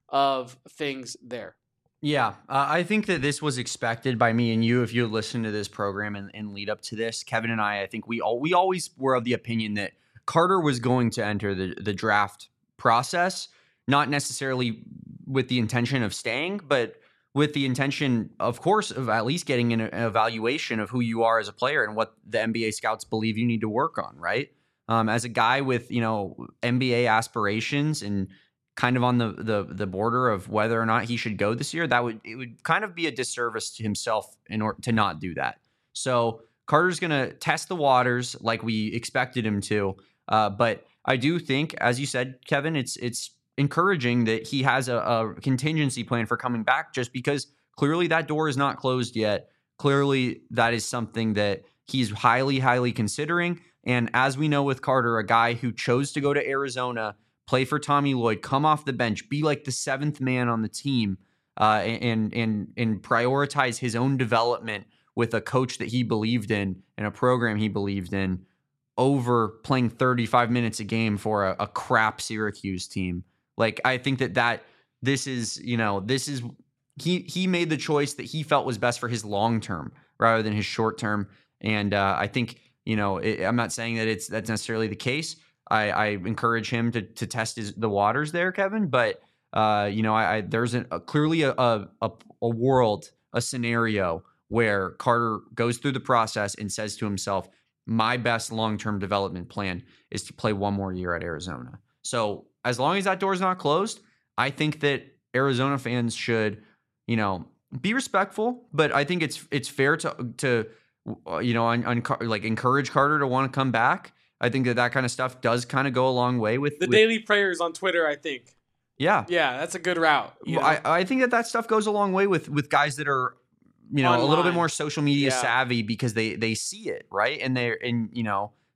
Speaker 1: of things there.
Speaker 2: Yeah, uh, I think that this was expected by me and you. If you listened to this program and, and lead up to this, Kevin and I, I think we all we always were of the opinion that Carter was going to enter the, the draft process, not necessarily with the intention of staying, but with the intention, of course, of at least getting an, an evaluation of who you are as a player and what the N B A scouts believe you need to work on, right? Um, as a guy with, you know, N B A aspirations and kind of on the, the the border of whether or not he should go this year, that would it would kind of be a disservice to himself in order to not do that. So Carter's going to test the waters like we expected him to. Uh, but I do think, as you said, Kevin, it's it's encouraging that he has a, a contingency plan for coming back, just because clearly that door is not closed yet. Clearly that is something that he's highly, highly considering. And as we know with Carter, a guy who chose to go to Arizona, play for Tommy Lloyd, come off the bench, be like the seventh man on the team, uh, and and and prioritize his own development with a coach that he believed in and a program he believed in over playing thirty-five minutes a game for a, a crap Syracuse team. Like, I think that that this is, you know, this is he he made the choice that he felt was best for his long term rather than his short term. And uh, I think, you know, it, I'm not saying that it's that's necessarily the case. I, I encourage him to to test his, the waters there, Kevin. But uh, you know, I, I there's a, a clearly a, a a world, a scenario where Carter goes through the process and says to himself, "My best long term development plan is to play one more year at Arizona." So as long as that door's not closed, I think that Arizona fans should, you know, be respectful. But I think it's it's fair to to you know, on, on, like encourage Carter to want to come back. I think that that kind of stuff does kind of go a long way with
Speaker 1: the
Speaker 2: with,
Speaker 1: daily prayers on Twitter, I think.
Speaker 2: Yeah.
Speaker 1: Yeah, that's a good route. You know?
Speaker 2: I, I think that that stuff goes a long way with, with guys that are, you know, Online. a little bit more social media
Speaker 1: yeah.
Speaker 2: savvy because they, they see it, right? And they're, and, you know,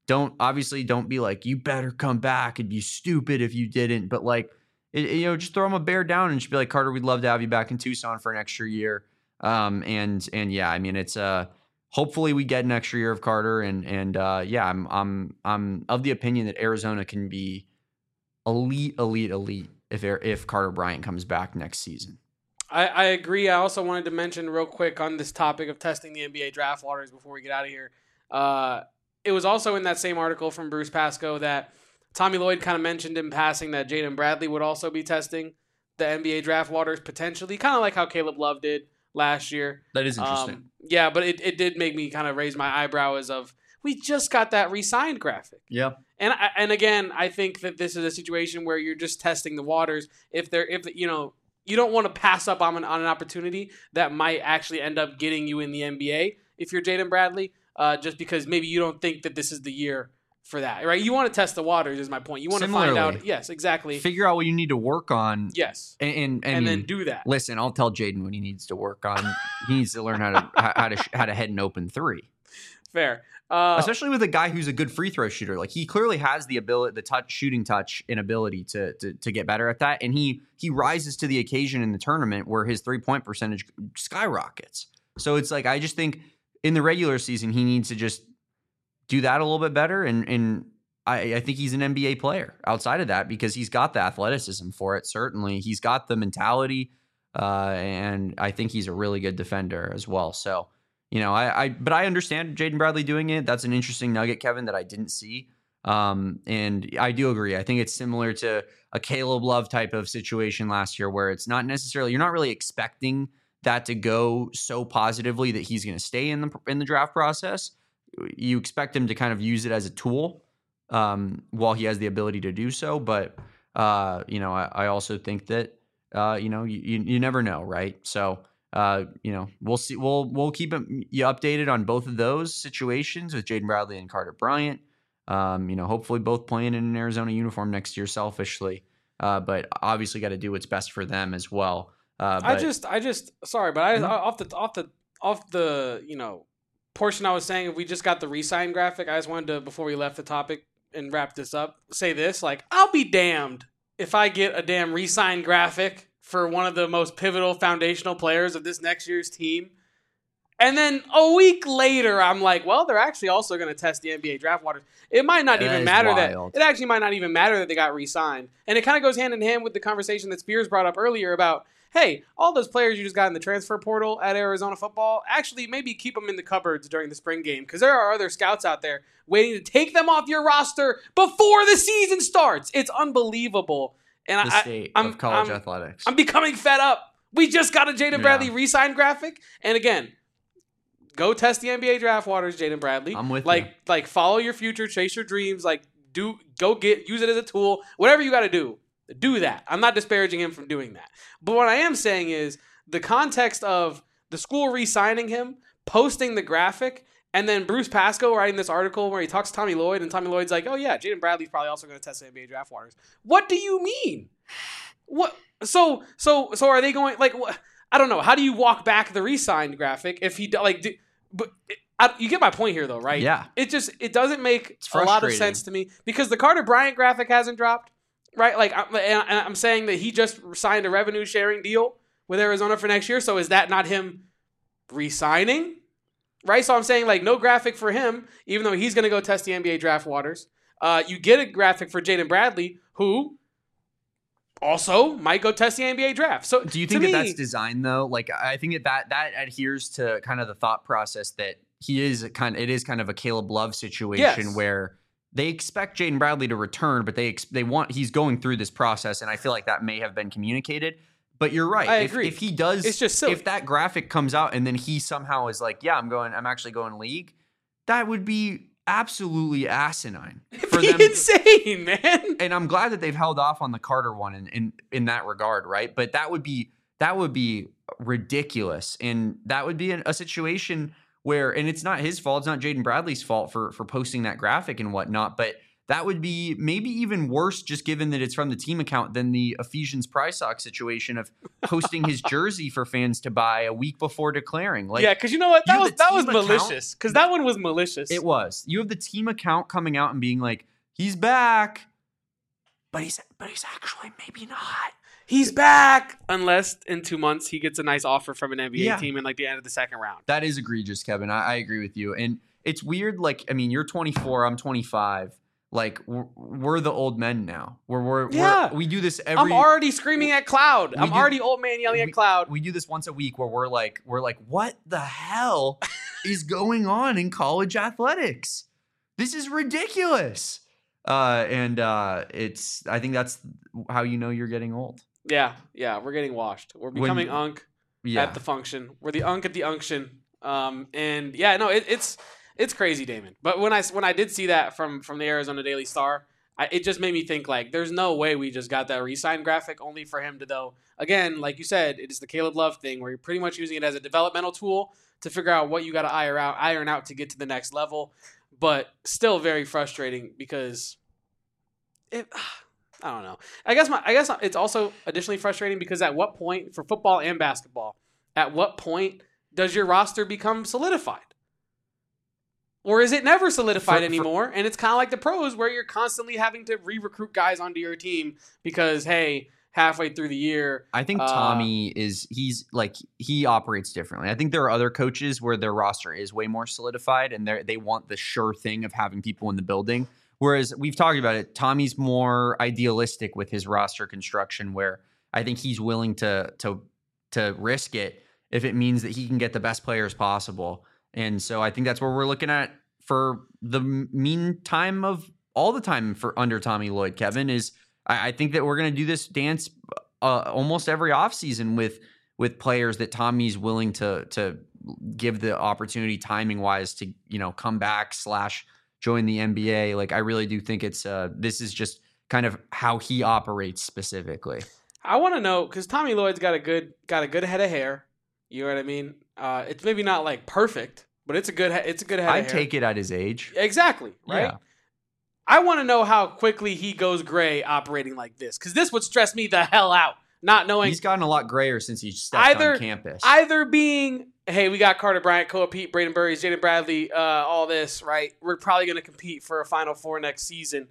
Speaker 2: don't obviously don't be like, you better come back. It'd be stupid if you didn't. But like, it, you know, just throw him a bear down and just be like, Carter, we'd love to have you back in Tucson for an extra year. Um, and and yeah, I mean, it's uh, hopefully we get an extra year of Carter. And and uh, yeah, I'm I'm I'm of the opinion that Arizona can be elite, elite, elite if if Carter Bryant comes back next season.
Speaker 1: I, I agree. I also wanted to mention real quick on this topic of testing the N B A draft waters before we get out of here. Uh, it was also in that same article from Bruce Pascoe that Tommy Lloyd kind of mentioned in passing that Jaden Bradley would also be testing the N B A draft waters potentially, kind of like how Caleb Love did last year.
Speaker 2: That is interesting.
Speaker 1: Um, yeah, but it, it did make me kind of raise my eyebrow as of, we just got that re-signed graphic.
Speaker 2: Yeah.
Speaker 1: And I, and again, I think that this is a situation where you're just testing the waters. If they're, if you know, you don't want to pass up on an, on an opportunity that might actually end up getting you in the N B A if you're Jaden Bradley, uh, just because maybe you don't think that this is the year for that, right? You want to test the waters is my point. You want
Speaker 2: Similarly,
Speaker 1: to find out. Yes, exactly.
Speaker 2: Figure out what you need to work on.
Speaker 1: Yes.
Speaker 2: And, and,
Speaker 1: and
Speaker 2: and
Speaker 1: then do that.
Speaker 2: Listen, I'll tell Jaden what he needs to work on. He needs to learn how to, how to, how to head an open three.
Speaker 1: Fair. Uh,
Speaker 2: Especially with a guy who's a good free throw shooter. Like he clearly has the ability, the touch, shooting touch and ability to, to, to get better at that. And he, he rises to the occasion in the tournament where his three point percentage skyrockets. So it's like, I just think in the regular season, he needs to just do that a little bit better. And, and I, I think he's an N B A player outside of that because he's got the athleticism for it. Certainly he's got the mentality. Uh, and I think he's a really good defender as well. So, you know, I, I but I understand Jaden Bradley doing it. That's an interesting nugget, Kevin, that I didn't see. Um, and I do agree. I think it's similar to a Caleb Love type of situation last year where it's not necessarily, you're not really expecting that to go so positively that he's going to stay in the in the draft process. You expect him to kind of use it as a tool um, while he has the ability to do so. But, uh, you know, I, I also think that, uh, you know, you, you, you never know, right? So, Uh, you know, we'll see. We'll we'll keep you updated on both of those situations with Jaden Bradley and Carter Bryant. Um, you know, hopefully both playing in an Arizona uniform next year, selfishly, uh, but obviously got to do what's best for them as well. Uh, but,
Speaker 1: I just, I just, sorry, but I mm-hmm. off the off the off the you know portion I was saying, if we just got the re-sign graphic, I just wanted to, before we left the topic and wrap this up, say this: like, I'll be damned if I get a damn re-sign graphic for one of the most pivotal foundational players of this next year's team. And then a week later, I'm like, well, they're actually also going to test the N B A draft waters. It might not
Speaker 2: that
Speaker 1: even matter
Speaker 2: wild.
Speaker 1: that, it actually might not even matter that they got re-signed. And it kind of goes hand in hand with the conversation that Spears brought up earlier about, hey, all those players you just got in the transfer portal at Arizona football, actually maybe keep them in the cupboards during the spring game, because there are other scouts out there waiting to take them off your roster before the season starts. It's unbelievable. And
Speaker 2: the
Speaker 1: I,
Speaker 2: state
Speaker 1: I'm,
Speaker 2: of college
Speaker 1: I'm,
Speaker 2: athletics.
Speaker 1: I'm becoming fed up. We just got a Jaden
Speaker 2: Yeah.
Speaker 1: Bradley re-sign graphic. And again, go test the N B A draft waters, Jaden Bradley.
Speaker 2: I'm with
Speaker 1: like,
Speaker 2: you.
Speaker 1: Like, follow your future, chase your dreams. Like, do go get, use it as a tool. Whatever you got to do, do that. I'm not disparaging him from doing that. But what I am saying is the context of the school re-signing him, posting the graphic, and then Bruce Pascoe writing this article where he talks to Tommy Lloyd, and Tommy Lloyd's like, oh, yeah, Jaden Bradley's probably also going to test the N B A draft waters. What do you mean? What? So, so, so are they going, like, what? I don't know. How do you walk back the re-signed graphic if he, like, do, but it, I, you get my point here, though, right?
Speaker 2: Yeah.
Speaker 1: It just, it doesn't make a lot of sense to me because the Carter Bryant graphic hasn't dropped, right? Like, I'm, and I'm saying that he just signed a revenue sharing deal with Arizona for next year. So is that not him re-signing? Right, so I'm saying, like, no graphic for him, even though he's going to go test the N B A draft waters. Uh, you get a graphic for Jaden Bradley, who also might go test the N B A draft. So,
Speaker 2: do you think
Speaker 1: that
Speaker 2: me,
Speaker 1: that's
Speaker 2: designed though? Like, I think that, that that adheres to kind of the thought process that he is kind. It is kind of a Caleb Love situation
Speaker 1: yes.
Speaker 2: where they expect Jaden Bradley to return, but they ex- they want he's going through this process, and I feel like that may have been communicated. But you're right.
Speaker 1: I
Speaker 2: if,
Speaker 1: agree.
Speaker 2: If he does,
Speaker 1: it's just silly.
Speaker 2: If that graphic comes out and then he somehow is like, yeah, I'm going, I'm actually going league, that would be absolutely asinine.
Speaker 1: For them. Insane, man.
Speaker 2: And I'm glad that they've held off on the Carter one in, in, in that regard, right? But that would be that would be ridiculous. And that would be an, a situation where, and it's not his fault, it's not Jaden Bradley's fault for for posting that graphic and whatnot, but that would be maybe even worse, just given that it's from the team account, than the Ephesians Prize Sock situation of posting his jersey for fans to buy a week before declaring. Like,
Speaker 1: yeah, because you know what? That
Speaker 2: you
Speaker 1: was
Speaker 2: have the
Speaker 1: that was
Speaker 2: team account-
Speaker 1: malicious. Because that one was malicious.
Speaker 2: It was. You have the team account coming out and being like, he's back, but he's but he's actually maybe not.
Speaker 1: He's back, unless in two months he gets a nice offer from an N B A
Speaker 2: Yeah.
Speaker 1: team in like the end of the second round.
Speaker 2: That is egregious, Kevin. I, I agree with you. And it's weird. Like, I mean, you're twenty-four, I'm twenty-five. Like, we're, we're the old men now. We're, we're,
Speaker 1: Yeah.
Speaker 2: we're we do this every.
Speaker 1: I'm already screaming at Cloud.
Speaker 2: We
Speaker 1: I'm
Speaker 2: do-
Speaker 1: already old man yelling
Speaker 2: we,
Speaker 1: at Cloud.
Speaker 2: We do this once a week where we're like, we're like, what the hell is going on in college athletics? This is ridiculous. Uh, and uh, it's. I think that's how you know you're getting old.
Speaker 1: Yeah, yeah, we're getting washed. We're becoming
Speaker 2: When-
Speaker 1: unk
Speaker 2: Yeah.
Speaker 1: at the function. We're the unk at the unction. Um, and yeah, no, it, it's it's crazy, Damon. But when I when I did see that from from the Arizona Daily Star, I, it just made me think like, there's no way we just got that re-sign graphic only for him to, though. Again, like you said, it is the Caleb Love thing where you're pretty much using it as a developmental tool to figure out what you got to iron out, iron out to get to the next level. But still very frustrating because it. I don't know. I guess my I guess it's also additionally frustrating because at what point for football and basketball, at what point does your roster become solidified? Or is it never solidified
Speaker 2: For- for-
Speaker 1: anymore? And it's kind of like the pros where you're constantly having to re-recruit guys onto your team because, hey, halfway through the year.
Speaker 2: I think
Speaker 1: uh,
Speaker 2: Tommy is he's like he operates differently. I think there are other coaches where their roster is way more solidified and they they want the sure thing of having people in the building. Whereas we've talked about it, Tommy's more idealistic with his roster construction, where I think he's willing to to to risk it if it means that he can get the best players possible. And so I think that's where we're looking at for the meantime of all the time for under Tommy Lloyd, Kevin, is I, I think that we're going to do this dance uh, almost every offseason with with players that Tommy's willing to to give the opportunity timing wise to, you know, come back slash join the N B A. Like, I really do think it's uh, this is just kind of how he operates specifically.
Speaker 1: I want to know because Tommy Lloyd's got a good got a good head of hair. You know what I mean? Uh, it's maybe not like perfect, but it's a good he- it's a good head.
Speaker 2: I'd
Speaker 1: of hair.
Speaker 2: take it at his age.
Speaker 1: Exactly, right?
Speaker 2: Yeah.
Speaker 1: I want to know how quickly he goes gray operating like this, because this would stress me the hell out, not knowing
Speaker 2: He's gotten a lot grayer since he stepped
Speaker 1: Either-
Speaker 2: on campus.
Speaker 1: either being, hey, we got Carter Bryant, Koa Pete, Braden Burries, Jaden Bradley, uh, all this, right? We're probably going to compete for a Final Four next season.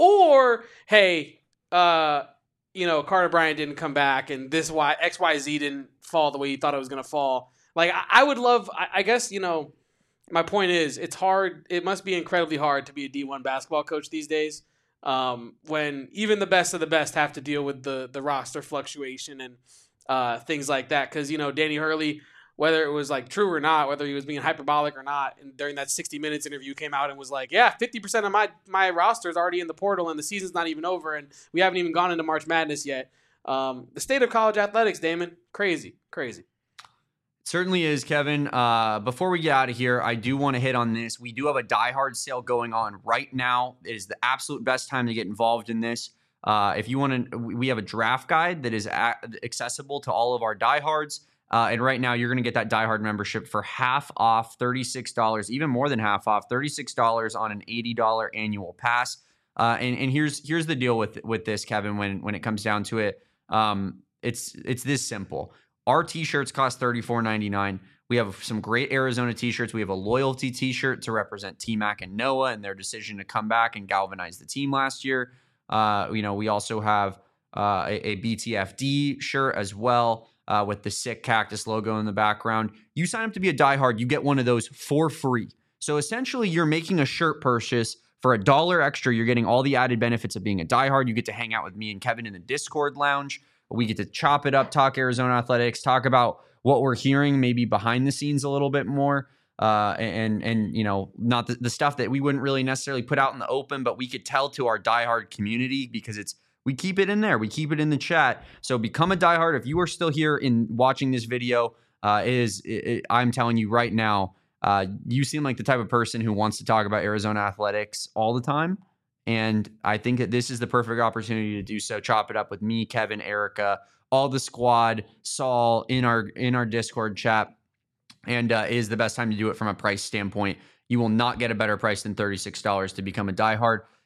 Speaker 1: Or, hey, uh, you know, Carter Bryant didn't come back and this Y, X Y Z didn't fall the way you thought it was going to fall. Like, I, I would love, I, I guess, you know, my point is, it's hard. It must be incredibly hard to be a D one basketball coach these days, um, when even the best of the best have to deal with the the roster fluctuation and uh, things like that. Because, you know, Danny Hurley, whether it was like true or not, whether he was being hyperbolic or not, and during that sixty minutes interview came out and was like, yeah, fifty percent of my my roster is already in the portal and the season's not even over and we haven't even gone into March Madness yet. Um, the state of college athletics, Damon, crazy, crazy.
Speaker 2: Certainly is, Kevin. Uh, before we get out of here, I do want to hit on this. We do have a Die Hard sale going on right now. It is the absolute best time to get involved in this. Uh, if you want to, we have a draft guide that is a- accessible to all of our diehards. Uh, and right now, you're going to get that Die Hard membership for half off, thirty-six dollars, even more than half off, thirty-six dollars on an eighty dollars annual pass. Uh, and and here's here's the deal with with this, Kevin. When when it comes down to it, um, it's it's this simple. Our t-shirts cost thirty-four ninety-nine. We have some great Arizona t-shirts. We have a loyalty t-shirt to represent T-Mac and Noah and their decision to come back and galvanize the team last year. Uh, you know, we also have uh, a, a B T F D shirt as well uh, with the sick cactus logo in the background. You sign up to be a diehard, you get one of those for free. So essentially, you're making a shirt purchase for a dollar extra. You're getting all the added benefits of being a diehard. You get to hang out with me and Kevin in the Discord lounge. We get to chop it up, talk Arizona athletics, talk about what we're hearing maybe behind the scenes a little bit more. Uh, and, and you know, not the, the stuff that we wouldn't really necessarily put out in the open, but we could tell to our diehard community because it's, we keep it in there. We keep it in the chat. So become a diehard. If you are still here in watching this video, uh, is it, it, I'm telling you right now, uh, you seem like the type of person who wants to talk about Arizona athletics all the time. And I think that this is the perfect opportunity to do so. Chop it up with me, Kevin, Erica, all the squad, Saul in our in our Discord chat, and uh, is the best time to do it from a price standpoint. You will not get a better price than thirty-six dollars to become a diehard.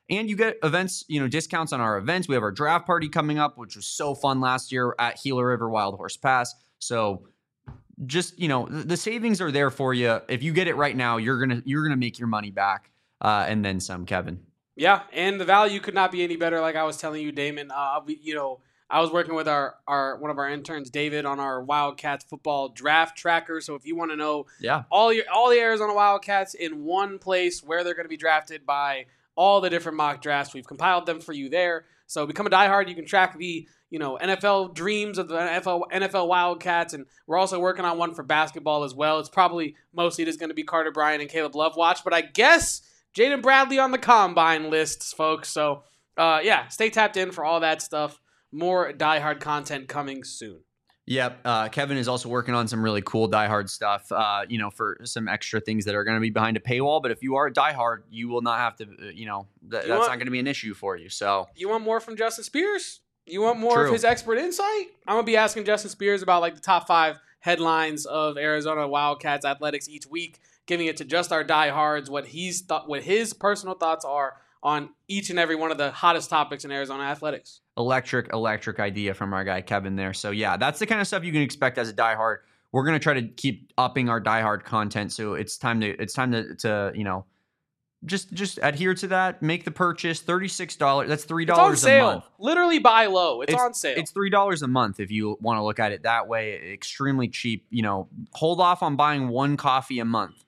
Speaker 2: And you get events, you know, discounts on our events. We have our draft party coming up, which was so fun last year at Gila River Wild Horse Pass. So just, you know, the savings are there for you. If you get it right now, you're going to, you're going to make your money back uh, and then some, Kevin.
Speaker 1: Yeah. And the value could not be any better. Like I was telling you, Damon, uh, we, you know, I was working with our, our one of our interns, David, on our Wildcats football draft tracker. So if you want to know
Speaker 2: yeah.
Speaker 1: all your all the Arizona Wildcats in one place where they're going to be drafted by all the different mock drafts, we've compiled them for you there. So become a diehard. You can track the you know N F L dreams of the N F L N F L Wildcats, and we're also working on one for basketball as well. It's probably mostly just going to be Carter Bryant and Caleb Love watch, but I guess Jaden Bradley on the combine lists, folks. So uh, yeah, stay tapped in for all that stuff. More diehard content coming soon.
Speaker 2: Yep. Uh, Kevin is also working on some really cool diehard stuff, uh, you know, for some extra things that are going to be behind a paywall. But if you are a diehard, you will not have to, uh, you know, th-
Speaker 1: you
Speaker 2: that's
Speaker 1: want,
Speaker 2: not going to be an issue for you. So
Speaker 1: you want more from Justin Spears? You want more
Speaker 2: True.
Speaker 1: of his expert insight? I'm going to be asking Justin Spears about like the top five headlines of Arizona Wildcats athletics each week, giving it to just our diehards, what he's thought, what his personal thoughts are on each and every one of the hottest topics in Arizona athletics.
Speaker 2: Electric, electric idea from our guy Kevin there. So yeah, that's the kind of stuff you can expect as a diehard. We're gonna try to keep upping our diehard content. So it's time to it's time to to you know just just adhere to that. Make the purchase. thirty-six dollars. That's three dollars a month.
Speaker 1: Literally buy low. It's,
Speaker 2: it's
Speaker 1: on sale.
Speaker 2: It's three dollars a month if you want to look at it that way. Extremely cheap. You know, hold off on buying one coffee a month,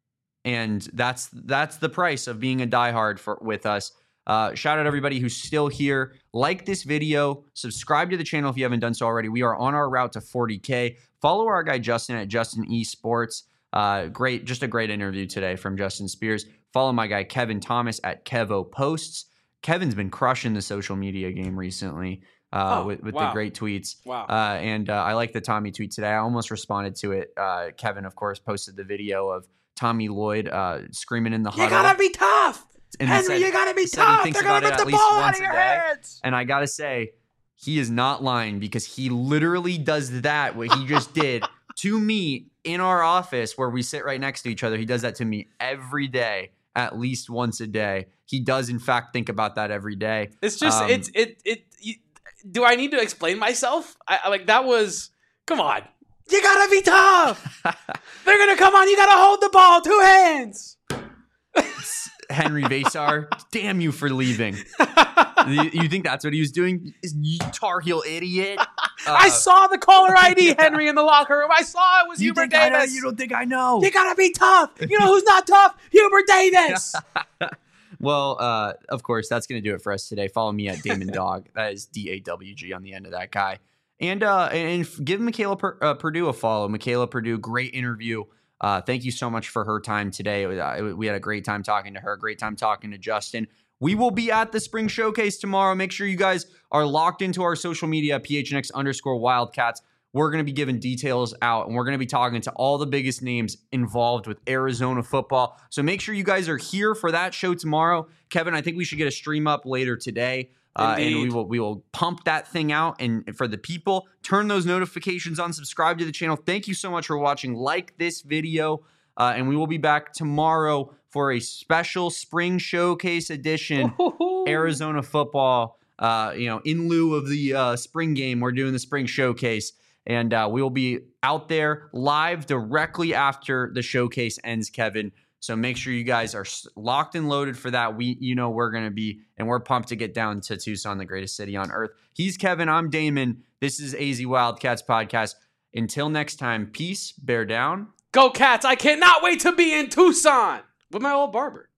Speaker 2: and that's that's the price of being a diehard for with us. Uh, shout out everybody who's still here. Like this video, subscribe to the channel if you haven't done so already. We are on our route to forty K. Follow our guy Justin at Justin Esports. Uh, great, just a great interview today from Justin Spears. Follow my guy Kevin Thomas at Kevo Posts. Kevin's been crushing the social media game recently uh,
Speaker 1: oh,
Speaker 2: with, with
Speaker 1: wow.
Speaker 2: the great tweets.
Speaker 1: Wow.
Speaker 2: Uh, and uh, I like the Tommy tweet today. I almost responded to it. Uh, Kevin, of course, posted the video of Tommy Lloyd uh, screaming in the huddle.
Speaker 1: You gotta be tough.
Speaker 2: And
Speaker 1: Henry,
Speaker 2: said,
Speaker 1: you gotta be
Speaker 2: tough.
Speaker 1: tough. They're gonna get the ball out of your hands.
Speaker 2: And I gotta say, he is not lying because he literally does that, what he just did to me in our office where we sit right next to each other. He does that to me every day, at least once a day. He does, in fact, think about that every day.
Speaker 1: It's just, um, it's, it, it, you, do I need to explain myself? I, I like, that was, come on. You gotta be tough. They're gonna come on. You gotta hold the ball, two hands.
Speaker 2: Henry Vasar, damn you for leaving. you, you think that's what he was doing? You Tar Heel idiot. Uh,
Speaker 1: I saw the caller I D, yeah. Henry, in the locker room. I saw it was
Speaker 2: you
Speaker 1: Hubert
Speaker 2: think
Speaker 1: Davis.
Speaker 2: I know? You don't think I know?
Speaker 1: You gotta be tough. You know who's not tough? Hubert Davis.
Speaker 2: Well, uh, of course, that's going to do it for us today. Follow me at Damon Dog. That is D A W G on the end of that guy. And uh, and give Michaela per, uh, Purdue a follow. Michaela Purdue, great interview. Uh, thank you so much for her time today. We had a great time talking to her, great time talking to Justin. We will be at the Spring Showcase tomorrow. Make sure you guys are locked into our social media, P H N X underscore Wildcats. We're going to be giving details out, and we're going to be talking to all the biggest names involved with Arizona football. So make sure you guys are here for that show tomorrow. Kevin, I think we should get a stream up later today. Uh, and we will we will pump that thing out. And for the people, turn those notifications on, subscribe to the channel. Thank you so much for watching. Like this video, uh, and we will be back tomorrow for a special Spring Showcase edition. Ooh. Arizona football, uh, you know, in lieu of the uh, spring game, we're doing the Spring Showcase. And uh, we will be out there live directly after the showcase ends, Kevin. So make sure you guys are locked and loaded for that. We, you know, we're going to be, and we're pumped to get down to Tucson, the greatest city on earth. He's Kevin. I'm Damon. This is A Z Wildcats Podcast. Until next time, peace, bear down.
Speaker 1: Go Cats. I cannot wait to be in Tucson with my old barber.